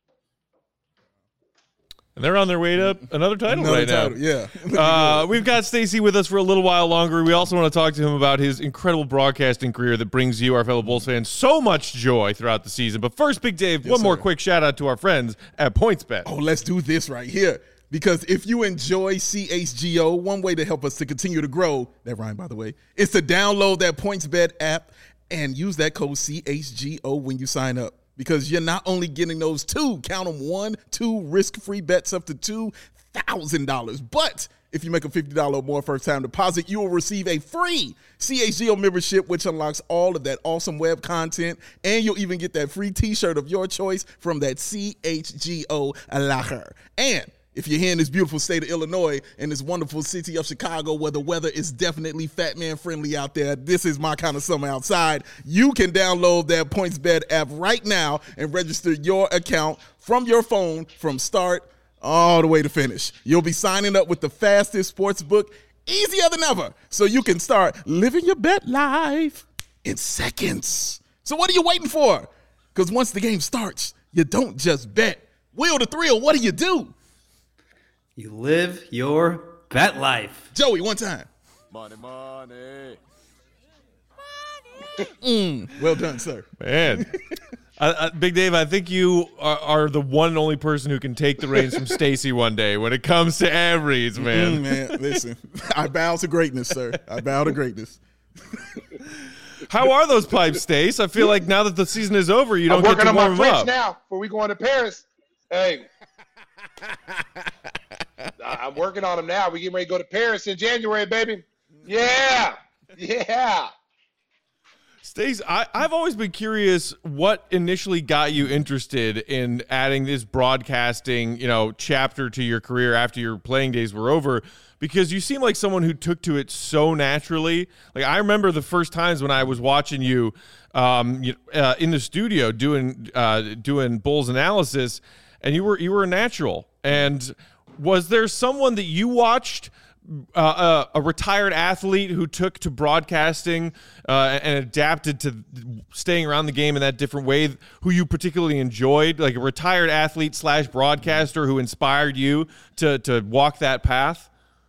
And they're on their way to another title Another right title, now. Yeah. uh, we've got Stacey with us for a little while longer. We also want to talk to him about his incredible broadcasting career that brings you, our fellow Bulls fans, so much joy throughout the season. But first, Big Dave, yes, one sir. more quick shout out to our friends at PointsBet. Oh, let's do this right here. Because if you enjoy C H G O, one way to help us to continue to grow, that rhyme, by the way, is to download that PointsBet app and use that code C H G O when you sign up. Because you're not only getting those two, count them, one, two risk-free bets up to two thousand dollars. But if you make a fifty dollars or more first-time deposit, you will receive a free C H G O membership, which unlocks all of that awesome web content. And you'll even get that free T-shirt of your choice from that C H G O locker. And if you're here in this beautiful state of Illinois and this wonderful city of Chicago where the weather is definitely fat man friendly out there, this is my kind of summer outside, you can download that PointsBet app right now and register your account from your phone from start all the way to finish. You'll be signing up with the fastest sports book, easier than ever, so you can start living your bet life in seconds. So what are you waiting for? Because once the game starts, you don't just bet. Will the thrill, what do you do? You live your bet life. Joey, one time. Money, money. Mm, well done, sir. Man. I, I, Big Dave, I think you are, are the one and only person who can take the reins from Stacey one day when it comes to average, man. Mm, man, listen, I bow to greatness, sir. I bow to greatness. How are those pipes, Stace? I feel like now that the season is over, you don't I'm get to working on warm my them French up. now before we go into Paris. Hey. I'm working on them now. We're getting ready to go to Paris in January, baby. Yeah. Yeah. Stace, I, I've always been curious what initially got you interested in adding this broadcasting, you know, chapter to your career after your playing days were over, because you seem like someone who took to it so naturally. Like, I remember the first times when I was watching you, um, you, uh, in the studio doing uh, doing Bulls analysis, and you were you were a natural. And was there someone that you watched? Uh, a, a retired athlete who took to broadcasting uh, and adapted to staying around the game in that different way, who you particularly enjoyed, like a retired athlete slash broadcaster who inspired you to to walk that path?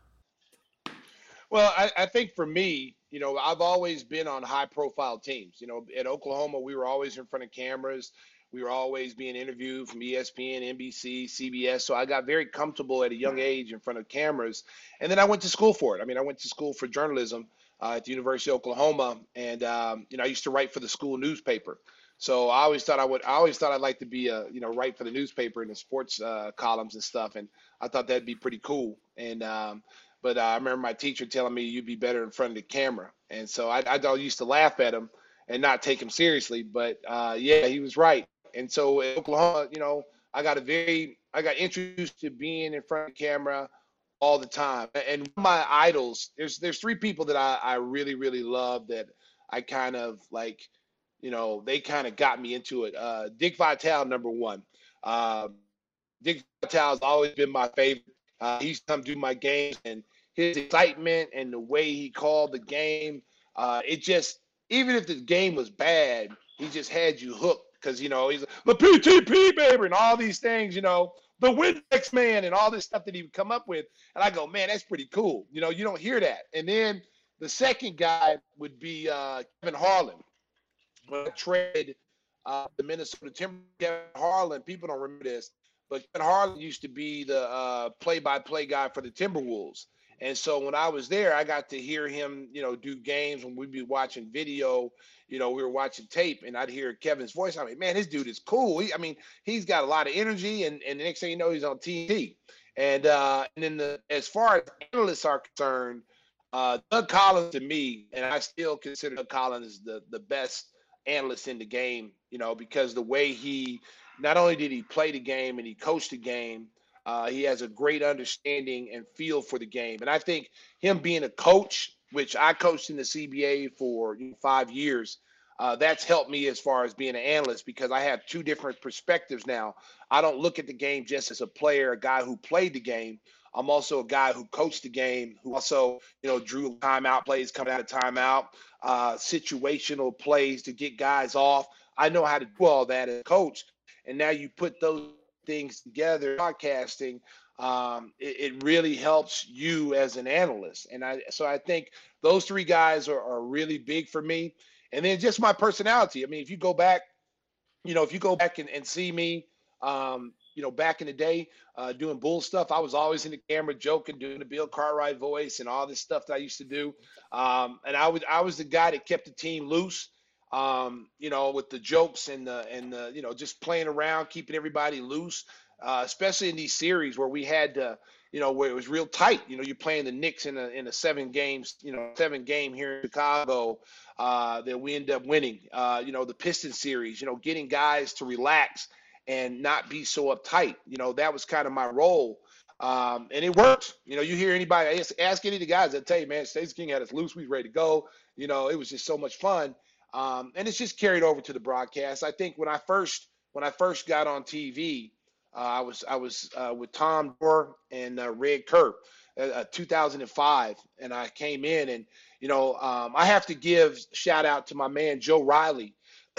Well, I, I think for me, you know, I've always been on high profile teams. You know, at Oklahoma, we were always in front of cameras. We were always being interviewed from E S P N, N B C, C B S. So I got very comfortable at a young age in front of cameras. And then I went to school for it. I mean, I went to school for journalism uh, at the University of Oklahoma. And, um, you know, I used to write for the school newspaper. So I always thought I would, I always thought I'd like to be a, you know, write for the newspaper and the sports uh, columns and stuff. And I thought that'd be pretty cool. And, um, but uh, I remember my teacher telling me you'd be better in front of the camera. And so I, I used to laugh at him and not take him seriously. But uh, yeah, he was right. And so in Oklahoma, you know, I got a very, I got introduced to being in front of the camera all the time. And my idols, there's there's three people that I, I really, really love that I kind of like, you know, they kind of got me into it. Uh, Dick Vitale, number one. Uh, Dick Vitale has always been my favorite. Uh, he used to come do my games, and his excitement and the way he called the game, uh, it just, even if the game was bad, he just had you hooked. Because, you know, he's the P T P, baby, and all these things, you know, the Windex man and all this stuff that he would come up with. And I go, man, that's pretty cool. You know, you don't hear that. And then the second guy would be uh, Kevin Harlan. When I traded uh, the Minnesota Timberwolves, Kevin Harlan, people don't remember this, but Kevin Harlan used to be the uh, play-by-play guy for the Timberwolves. And so when I was there, I got to hear him, you know, do games when we'd be watching video. You know, we were watching tape, and I'd hear Kevin's voice. I'm like, man, this dude is cool. He, I mean, he's got a lot of energy, and, and the next thing you know, he's on T V. And uh, and then the, as far as analysts are concerned, uh, Doug Collins to me, and I still consider Doug Collins the, the best analyst in the game, you know, because the way he, not only did he play the game and he coached the game, uh, he has a great understanding and feel for the game. And I think him being a coach, which I coached in the C B A for five years, uh, that's helped me as far as being an analyst, because I have two different perspectives now. I don't look at the game just as a player, a guy who played the game. I'm also a guy who coached the game, who also, you know, drew timeout plays coming out of timeout, uh, situational plays to get guys off. I know how to do all that as a coach. And now you put those things together, broadcasting, um, it, it really helps you as an analyst. And I, so I think those three guys are, are really big for me. And then just my personality. I mean, if you go back, you know, if you go back and, and see me, um, you know, back in the day, uh, doing bull stuff, I was always in the camera joking, doing the Bill Cartwright voice and all this stuff that I used to do. Um, and I would, I was the guy that kept the team loose, um, you know, with the jokes and the, and the, you know, just playing around, keeping everybody loose, uh, especially in these series where we had to, you know, where it was real tight. You know, you're playing the Knicks in a, in a seven games, you know, seven game here in Chicago, uh, that we end up winning, uh, you know, the Pistons series, you know, getting guys to relax and not be so uptight. You know, that was kind of my role. Um, and it worked. You know, you hear anybody, ask, ask any of the guys that tell you, man, Stacey King had us loose. We was ready to go. You know, it was just so much fun. Um, and it's just carried over to the broadcast. I think when I first, when I first got on T V, uh, I was, I was uh, with Tom Dorr and uh, Red Kerr, uh, two thousand five. And I came in and, you know, um, I have to give shout out to my man, Joe Riley,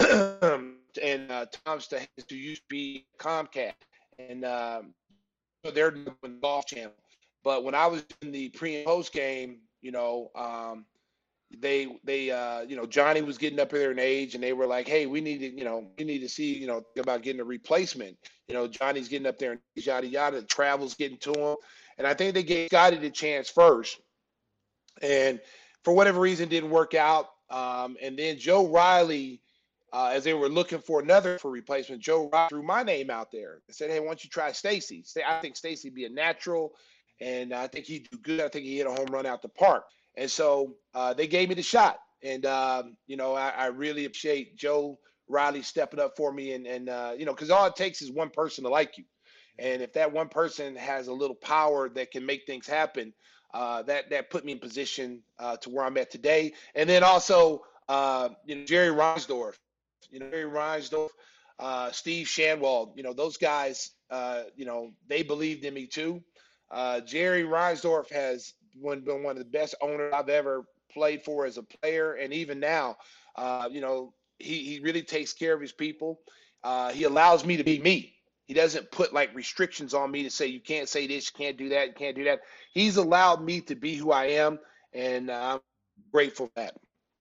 and uh, Tom Stahis, who used to be Comcast, and um, so they're doing the Golf Channel. But when I was in the pre and post game, you know, um, they they uh, you know, Johnny was getting up there in age, and they were like, hey, we need to, you know, we need to see, you know, about getting a replacement. You know, Johnny's getting up there and yada yada. The travel's getting to him, and I think they gave Scotty the chance first, and for whatever reason, didn't work out. Um, and then Joe Riley. Uh, as they were looking for another for replacement, Joe Riley threw my name out there and said, hey, why don't you try Stacey? I think Stacey be a natural, and I think he'd do good. I think he hit a home run out the park. And so uh, they gave me the shot. And, um, you know, I, I really appreciate Joe Riley stepping up for me. And, and uh, you know, because all it takes is one person to like you. And if that one person has a little power that can make things happen, uh, that that put me in position uh, to where I'm at today. And then also, uh, you know, Jerry Reinsdorf, you know, Jerry Reinsdorf, uh, Steve Shanwald, you know, those guys, uh, you know, they believed in me too. Uh, Jerry Reinsdorf has been one of the best owners I've ever played for as a player, and even now, uh, you know, he he really takes care of his people. Uh, he allows me to be me. He doesn't put like restrictions on me to say you can't say this, you can't do that, you can't do that. He's allowed me to be who I am, and uh, I'm grateful for that.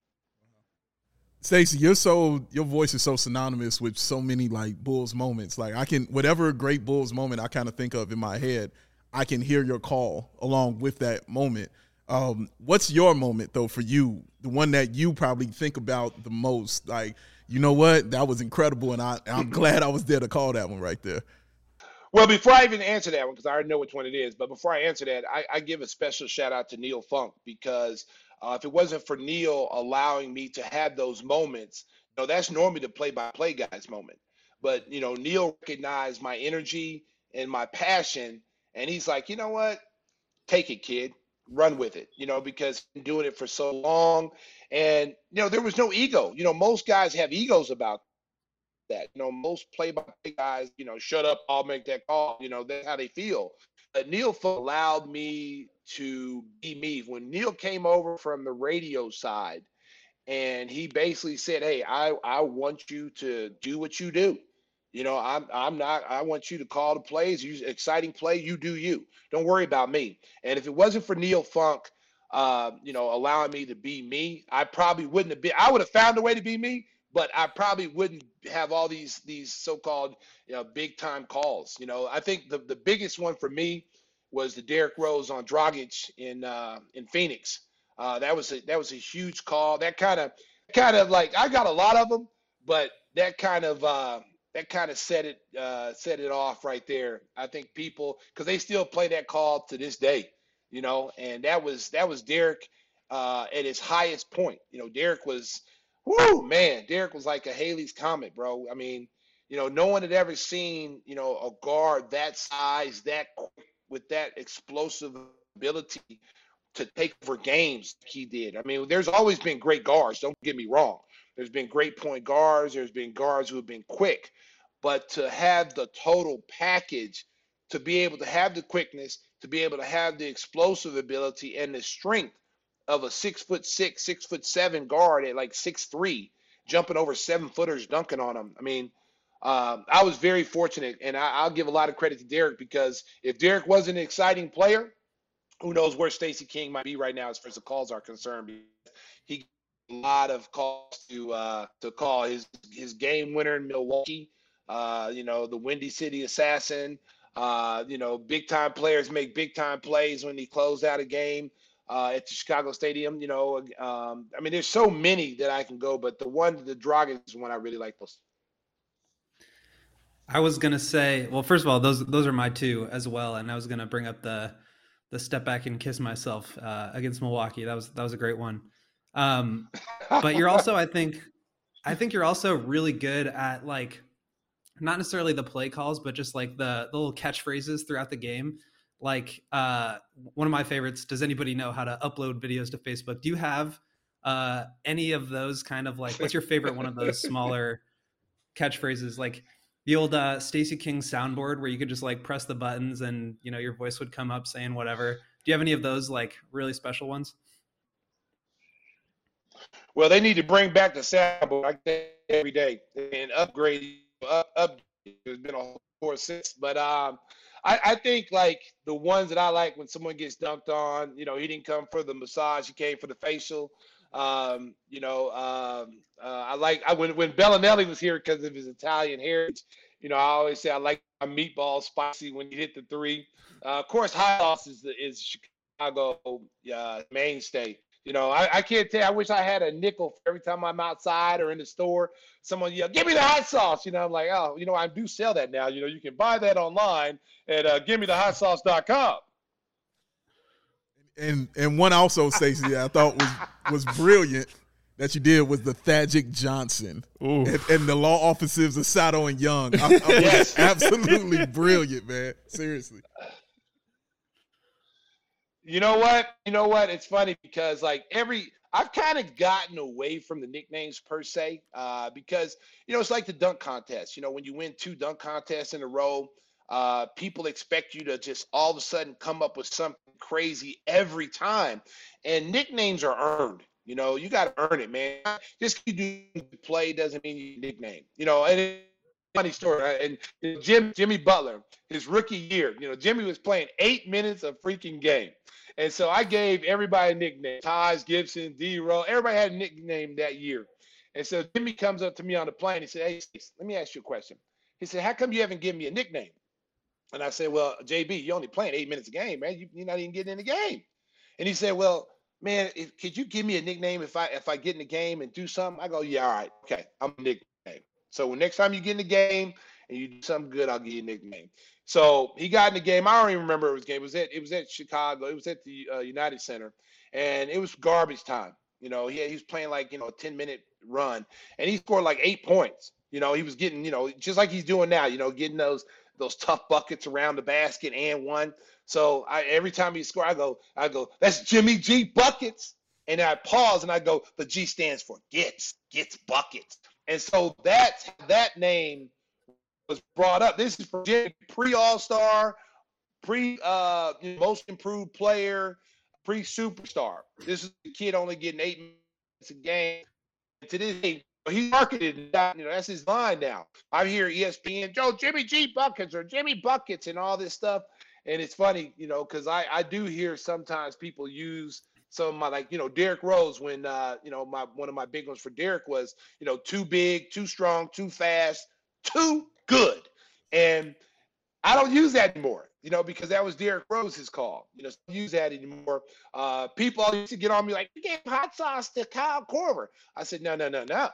Stacey, you're so your voice is so synonymous with so many like Bulls moments. Like I can whatever great Bulls moment I kind of think of in my head, I can hear your call along with that moment. Um, what's your moment though for you? The one that you probably think about the most? Like, you know what? That was incredible, and I, I'm glad I was there to call that one right there. Well, before I even answer that one, because I already know which one it is, but before I answer that, I, I give a special shout out to Neil Funk, because uh, if it wasn't for Neil allowing me to have those moments, you know, that's normally the play-by-play guy's moment. But, you know, Neil recognized my energy and my passion, and he's like, you know what? Take it, kid. Run with it, you know, because I've been doing it for so long. And, you know, there was no ego. You know, most guys have egos about that. You know, most play-by-play guys, you know, shut up, I'll make that call. You know, that's how they feel. But Neil allowed me to be me. When Neil came over from the radio side, and he basically said, hey, I, I want you to do what you do. You know, I'm I'm not, I want you to call the plays, use exciting play, you do you. Don't worry about me. And if it wasn't for Neil Funk, uh, you know, allowing me to be me, I probably wouldn't have been, I would have found a way to be me, but I probably wouldn't have all these these so-called, you know, big time calls. You know, I think the, the biggest one for me was the Derrick Rose on Dragic in uh, in Phoenix. Uh, that was a, that was a huge call. That kind of kind of like, I got a lot of them, but that kind of uh, that kind of set it uh, set it off right there. I think people, because they still play that call to this day, you know, and that was that was Derrick uh, at his highest point. You know, Derrick was, whoo, man, Derrick was like a Halley's Comet, bro. I mean, you know, no one had ever seen, you know, a guard that size, that quick, with that explosive ability to take over games like he did. I mean, there's always been great guards, don't get me wrong. There's been great point guards. There's been guards who have been quick. But to have the total package, to be able to have the quickness, to be able to have the explosive ability and the strength of a six foot six, six foot seven guard at like six three, jumping over seven footers, dunking on them. I mean, um, I was very fortunate, and I, I'll give a lot of credit to Derrick, because if Derrick wasn't an exciting player, who knows where Stacey King might be right now as far as the calls are concerned. He a lot of calls to uh, to call his his game winner in Milwaukee. Uh, you know, the Windy City Assassin. Uh, you know, big time players make big time plays when he closed out a game uh, at the Chicago Stadium. You know, um, I mean, there's so many that I can go, but the one, the Dragic is one I really like most. I was gonna say, well, first of all, those those are my two as well, and I was gonna bring up the the step back and kiss myself uh, against Milwaukee. That was that was a great one. Um, but you're also, I think, I think you're also really good at like, not necessarily the play calls, but just like the, the little catchphrases throughout the game. Like uh, one of my favorites, does anybody know how to upload videos to Facebook? Do you have uh, any of those kind of like, what's your favorite one of those smaller catchphrases? Like the old uh, Stacey King soundboard where you could just like press the buttons and, you know, your voice would come up saying whatever. Do you have any of those like really special ones? Well, they need to bring back the soundboard like that every day and upgrade. Up, up. There's been a whole course since, but um, I, I think like the ones that I like when someone gets dunked on. You know, he didn't come for the massage; he came for the facial. Um, you know, um, uh, I like I when when Bellinelli was here because of his Italian heritage. You know, I always say I like my meatball spicy when he hit the three. Uh, of course, hot sauce is the is Chicago uh, mainstay. You know, I, I can't tell you, I wish I had a nickel for every time I'm outside or in the store. Someone yell, give me the hot sauce. You know, I'm like, oh, you know, I do sell that now. You know, you can buy that online at uh, give me the hot sauce dot com. And and one also, Stacey, that I thought was was brilliant that you did was the Thagic Johnson and, and the law offices of Sato and Young. I, I Yes. absolutely brilliant, man. Seriously. You know what? You know what? It's funny because like every I've kind of gotten away from the nicknames per se, uh, because you know it's like the dunk contest. You know, when you win two dunk contests in a row, uh, people expect you to just all of a sudden come up with something crazy every time, and nicknames are earned. You know, you got to earn it, man. Just 'cause you do play doesn't mean you nickname. You know, and it's a funny story. Right? And you know, Jim Jimmy Butler, his rookie year, you know, Jimmy was playing eight minutes of freaking game. And so I gave everybody a nickname. Taj Gibson, D-Row, everybody had a nickname that year. And so Jimmy comes up to me on the plane. He said, hey, let me ask you a question. He said, how come you haven't given me a nickname? And I said, well, J B, you're only playing eight minutes a game, man. You, you're not even getting in the game. And he said, well, man, if, could you give me a nickname if I if I get in the game and do something? I go, yeah, all right, okay, I'm a nickname. So when next time you get in the game and you do something good, I'll give you a nickname. So he got in the game. I don't even remember it was game. It was at it was at Chicago. It was at the uh, United Center, and it was garbage time. You know, he he was playing like you know a ten minute run, and he scored like eight points. You know, he was getting you know just like he's doing now. You know, getting those those tough buckets around the basket and one. So I, every time he scored, I go, I go, that's Jimmy G buckets. And I pause and I go, the G stands for gets, gets buckets. And so that's that name was brought up. This is for Jimmy, pre-All-Star, pre uh, most improved player, pre-superstar. This is the kid only getting eight minutes a game. And to this day, he marketed, you know, that's his line now. I hear E S P N, Joe, Jimmy G buckets or Jimmy buckets and all this stuff. And it's funny, you know, because I, I do hear sometimes people use some of my, like, you know, Derrick Rose when, uh, you know, my one of my big ones for Derrick was, you know, too big, too strong, too fast, too good. And I don't use that anymore, you know, because that was Derrick Rose's call. You know, so I don't use that anymore. Uh, people all used to get on me like, you gave hot sauce to Kyle Korver. I said, no, no, no, no.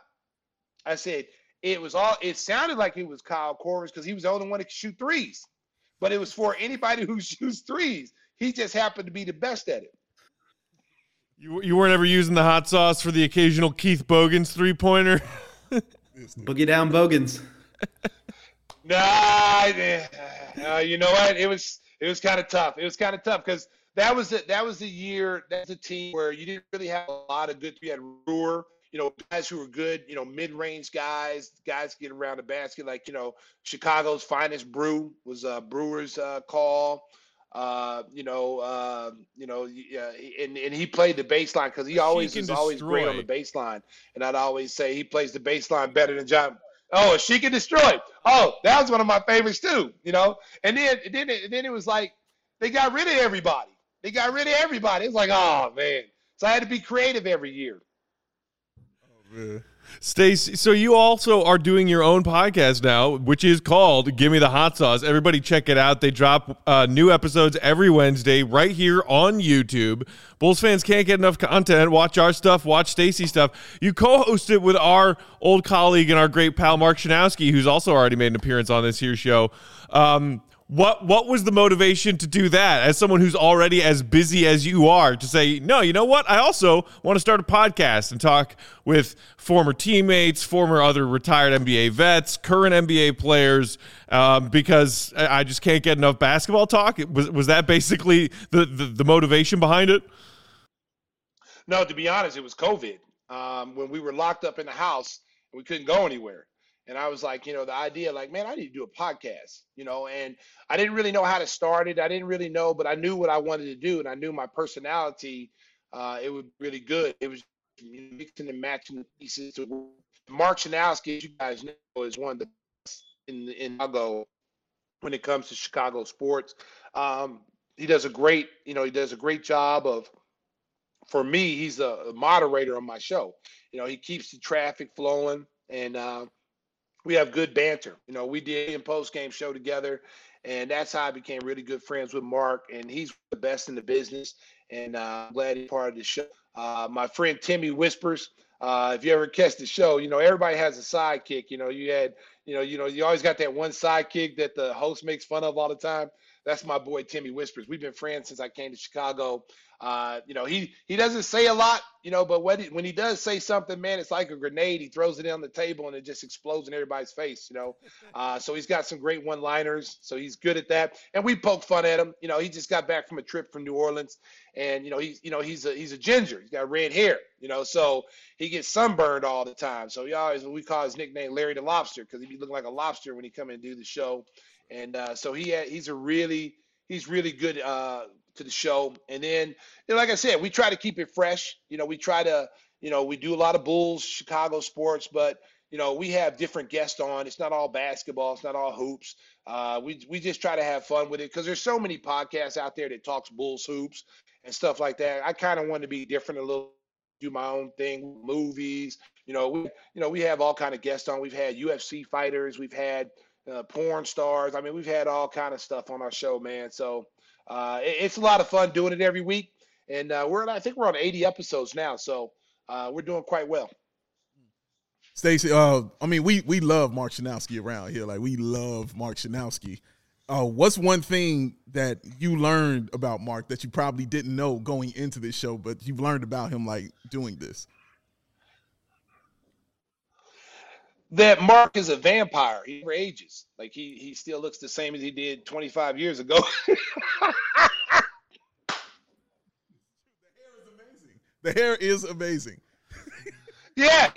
I said, it was all, it sounded like it was Kyle Korver's because he was the only one that could shoot threes. But it was for anybody who shoots threes. He just happened to be the best at it. You you weren't ever using the hot sauce for the occasional Keith Bogans three-pointer? Boogie down Bogans. Nah, uh, you know what? It was it was kind of tough. It was kind of tough because that was the, that was the year, that's a team where you didn't really have a lot of good. You had Brewer, you know, guys who were good, you know, mid-range guys, guys getting around the basket, like, you know, Chicago's finest brew was uh, Brewer's uh, call. Uh, you know, uh, you know, uh, and, and he played the baseline because he always was always great on the baseline. And I'd always say he plays the baseline better than John. Oh, she can destroy. Oh, that was one of my favorites too, you know. And then, and then, it, and then it was like they got rid of everybody. They got rid of everybody. It's like, oh man. So I had to be creative every year. Stacey, so you also are doing your own podcast now, which is called Give Me the Hot Sauce. Everybody check it out. They drop uh, new episodes every Wednesday right here on YouTube. Bulls fans can't get enough content. Watch our stuff. Watch Stacey stuff. You co-host it with our old colleague and our great pal, Mark Shanowski, who's also already made an appearance on this here show. Um, What what was the motivation to do that as someone who's already as busy as you are to say, no, you know what? I also want to start a podcast and talk with former teammates, former other retired N B A vets, current N B A players, um, because I just can't get enough basketball talk. Was was that basically the, the, the motivation behind it? No, to be honest, it was COVID. Um, when we were locked up in the house and we couldn't go anywhere. And I was like, you know, the idea, like, man, I need to do a podcast, you know, and I didn't really know how to start it. I didn't really know, but I knew what I wanted to do. And I knew my personality, uh, it would be really good. It was mixing and matching the pieces. To Mark Shanowski, as you guys know, is one of the best in, in Chicago when it comes to Chicago sports. Um, he does a great, you know, he does a great job of, for me, he's a moderator on my show. You know, he keeps the traffic flowing and, uh, we have good banter. You know, we did a post-game show together, and that's how I became really good friends with Mark, and he's the best in the business, and uh, I'm glad he's part of the show. Uh, my friend Timmy Whispers, uh, if you ever catch the show, you know, everybody has a sidekick. You know, you had, you know, you know, you always got that one sidekick that the host makes fun of all the time. That's my boy Timmy Whispers. We've been friends since I came to Chicago. Uh, you know, he he doesn't say a lot, you know, but when he, when he does say something, man, it's like a grenade. He throws it on the table and it just explodes in everybody's face, you know. Uh, so he's got some great one-liners, so he's good at that. And we poke fun at him. You know, he just got back from a trip from New Orleans, and you know, he's you know he's a he's a ginger. He's got red hair, you know, so he gets sunburned all the time. So he always we call his nickname Larry the Lobster because he be looking like a lobster when he come in and do the show. And uh, so he had, he's a really he's really good uh, to the show. And then, you know, like I said, we try to keep it fresh. You know, we try to, you know, we do a lot of Bulls, Chicago sports, but, you know, we have different guests on. It's not all basketball. It's not all hoops. Uh, we we just try to have fun with it because there's so many podcasts out there that talks Bulls hoops and stuff like that. I kind of want to be different a little, do my own thing, movies. You know, we you know we have all kind of guests on. We've had U F C fighters. We've had uh, porn stars. I mean, we've had all kind of stuff on our show, man. So uh, it, it's a lot of fun doing it every week. And uh, we're I think we're on eighty episodes now, so uh, we're doing quite well. Stacey, uh, I mean, we we love Mark Schanowski around here. Like, we love Mark Schanowski. Uh, what's one thing that you learned about Mark that you probably didn't know going into this show, but you've learned about him, like, doing this? That Mark is a vampire. He never ages. Like, he he still looks the same as he did twenty-five years ago. The hair is amazing. Yeah,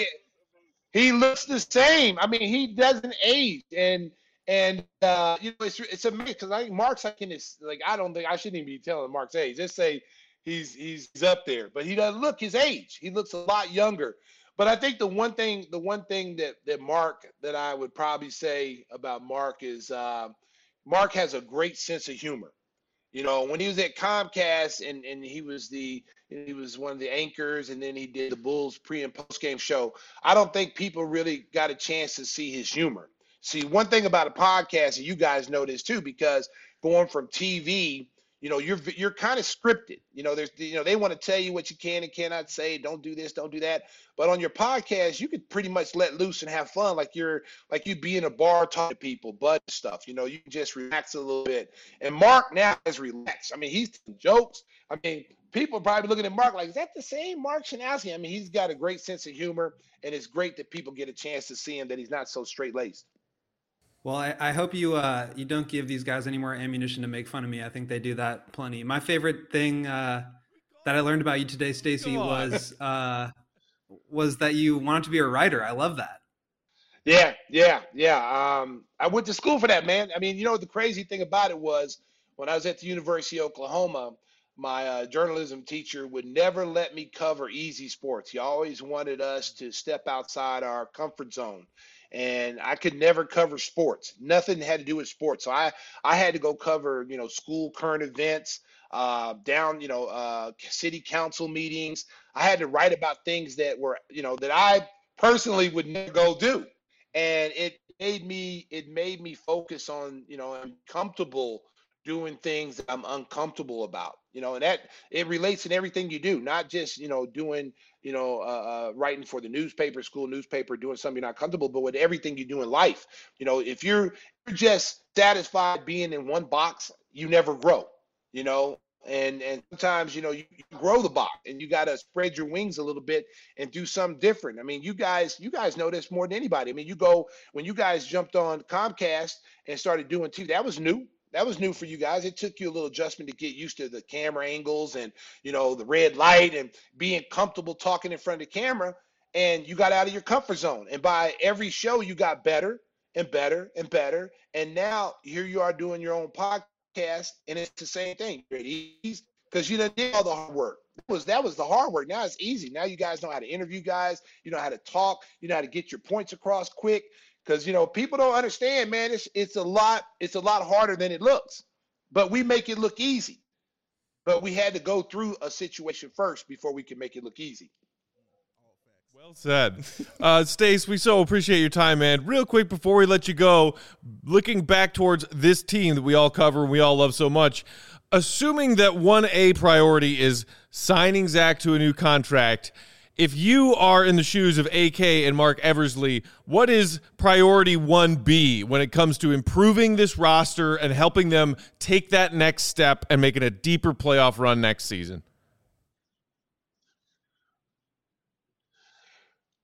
he looks the same. I mean, he doesn't age, and and uh, you know, it's it's amazing because I think Mark's like in his like I don't think I shouldn't even be telling Mark's age. Just say he's he's up there, but he doesn't look his age. He looks a lot younger. But I think the one thing the one thing that that Mark that I would probably say about Mark is uh, Mark has a great sense of humor. You know, when he was at Comcast and, and he was the he was one of the anchors, and then he did the Bulls pre and post game show. I don't think people really got a chance to see his humor. See, one thing about a podcast, and you guys know this too, because going from T V, you know, you're you're kind of scripted. You know, there's you know they want to tell you what you can and cannot say. Don't do this, don't do that. But on your podcast, you could pretty much let loose and have fun, like you're like you'd be in a bar talking to people, but stuff. You know, you can just relax a little bit. And Mark now is relaxed. I mean, he's telling jokes. I mean, people are probably looking at Mark like, is that the same Mark Schanowski? I mean, he's got a great sense of humor, and it's great that people get a chance to see him, that he's not so straight-laced. Well, I, I hope you uh, you don't give these guys any more ammunition to make fun of me. I think they do that plenty. My favorite thing uh, that I learned about you today, Stacey, was uh, was that you wanted to be a writer. I love that. Yeah, yeah, yeah. Um, I went to school for that, man. I mean, you know, the crazy thing about it was when I was at the University of Oklahoma, my uh, journalism teacher would never let me cover easy sports. He always wanted us to step outside our comfort zone. And I could never cover sports. Nothing had to do with sports. So I, I had to go cover, you know, school current events, uh, down, you know, uh, city council meetings. I had to write about things that were, you know, that I personally would never go do. And it made me, it made me focus on, you know, I'm comfortable doing things that I'm uncomfortable about, you know, and that it relates in everything you do, not just, you know, doing, you know, uh, uh, writing for the newspaper, school newspaper, doing something you're not comfortable, but with everything you do in life. You know, if you're, you're just satisfied being in one box, you never grow, you know, and, and sometimes, you know, you, you grow the box and you got to spread your wings a little bit and do something different. I mean, you guys, you guys know this more than anybody. I mean, you go, when you guys jumped on Comcast and started doing T V, that was new. That was new for you guys. It took you a little adjustment to get used to the camera angles and, you know, the red light and being comfortable talking in front of the camera. And you got out of your comfort zone. And by every show, you got better and better and better. And now here you are doing your own podcast, and it's the same thing. You're at ease because you done did all the hard work. That was, that was the hard work. Now it's easy. Now you guys know how to interview guys. You know how to talk. You know how to get your points across quick. Because, you know, people don't understand, man, it's it's a lot, it's a lot harder than it looks. But we make it look easy. But we had to go through a situation first before we can make it look easy. Well said. Uh, Stace, we so appreciate your time, man. Real quick before we let you go, looking back towards this team that we all cover and we all love so much, assuming that one A priority is signing Zach to a new contract, if you are in the shoes of A K and Mark Eversley, what is priority one B when it comes to improving this roster and helping them take that next step and making a deeper playoff run next season?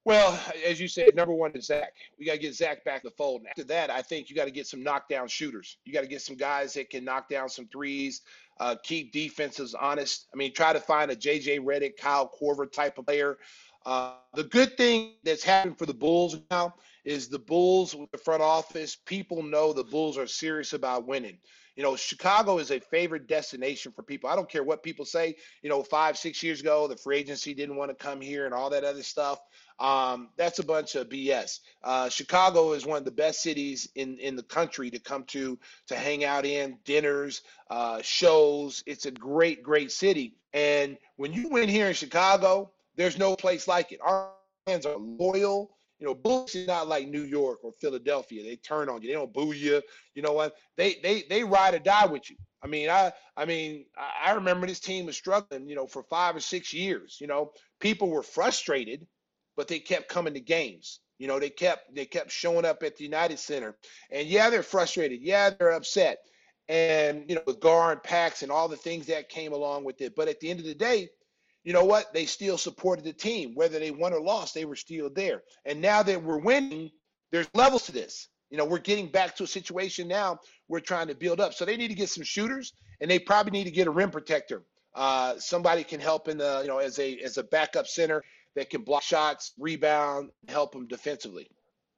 Well, as you said, number one is Zach. We got to get Zach back in the fold. And after that, I think you got to get some knockdown shooters. You got to get some guys that can knock down some threes, uh, keep defenses honest. I mean, try to find a J J Redick, Kyle Korver type of player. Uh, the good thing that's happened for the Bulls now is the Bulls with the front office. People know the Bulls are serious about winning. You know, Chicago is a favorite destination for people. I don't care what people say. You know, five, six years ago, the free agency didn't want to come here and all that other stuff. Um, that's a bunch of B S. Uh, Chicago is one of the best cities in, in the country to come to, to hang out in, dinners, uh, shows. It's a great, great city. And when you win here in Chicago, there's no place like it. Our fans are loyal. You know, Bulls is not like New York or Philadelphia. They turn on you. They don't boo you. You know what? They they they ride or die with you. I mean, I I mean, I remember this team was struggling, you know, for five or six years. You know, people were frustrated, but they kept coming to games. You know, they kept they kept showing up at the United Center. And yeah, they're frustrated. Yeah, they're upset. And, you know, with Gar and Pax and all the things that came along with it. But at the end of the day, you know what? They still supported the team. Whether they won or lost, they were still there. And now that we're winning, there's levels to this. You know, we're getting back to a situation now we're trying to build up. So they need to get some shooters, and they probably need to get a rim protector. Uh, somebody can help in the, you know, as a as a backup center that can block shots, rebound, help them defensively.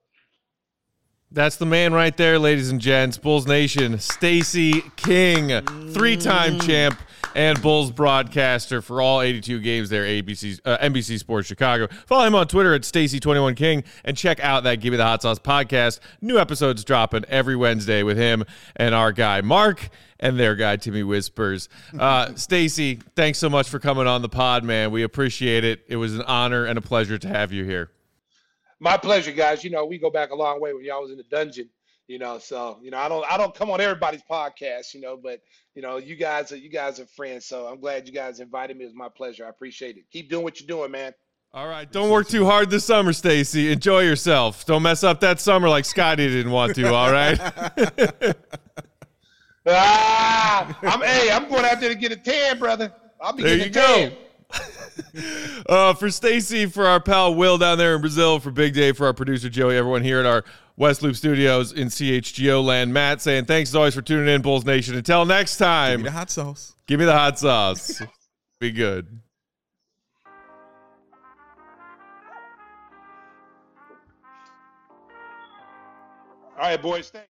That's the man right there, ladies and gents. Bulls Nation, Stacey King, three-time champ and Bulls broadcaster for all eighty-two games there, A B C, uh, N B C Sports Chicago. Follow him on Twitter at Stacey twenty-one King and check out that Give Me the Hot Sauce podcast. New episodes dropping every Wednesday with him and our guy Mark and their guy Timmy Whispers. Uh, Stacey, thanks so much for coming on the pod, man. We appreciate it. It was an honor and a pleasure to have you here. My pleasure, guys. You know, we go back a long way when y'all was in the dungeon, you know, so, you know, I don't, I don't come on everybody's podcast, you know, but, you know, you guys are, you guys are friends. So I'm glad you guys invited me. It was my pleasure. I appreciate it. Keep doing what you're doing, man. All right. Don't work too hard this summer, Stacey. Enjoy yourself. Don't mess up that summer like Scotty didn't want to. All right. ah, I'm, hey, I'm going out there to get a tan, brother. I'll be there getting you a tan. go. uh, for Stacey, for our pal Will down there in Brazil, for Big Dave, for our producer Joey, everyone here at our West Loop Studios in C H G O land, Matt saying thanks as always for tuning in, Bulls Nation. Until next time, Give me the hot sauce. Give me the hot sauce. Be good. All right, boys. Thanks.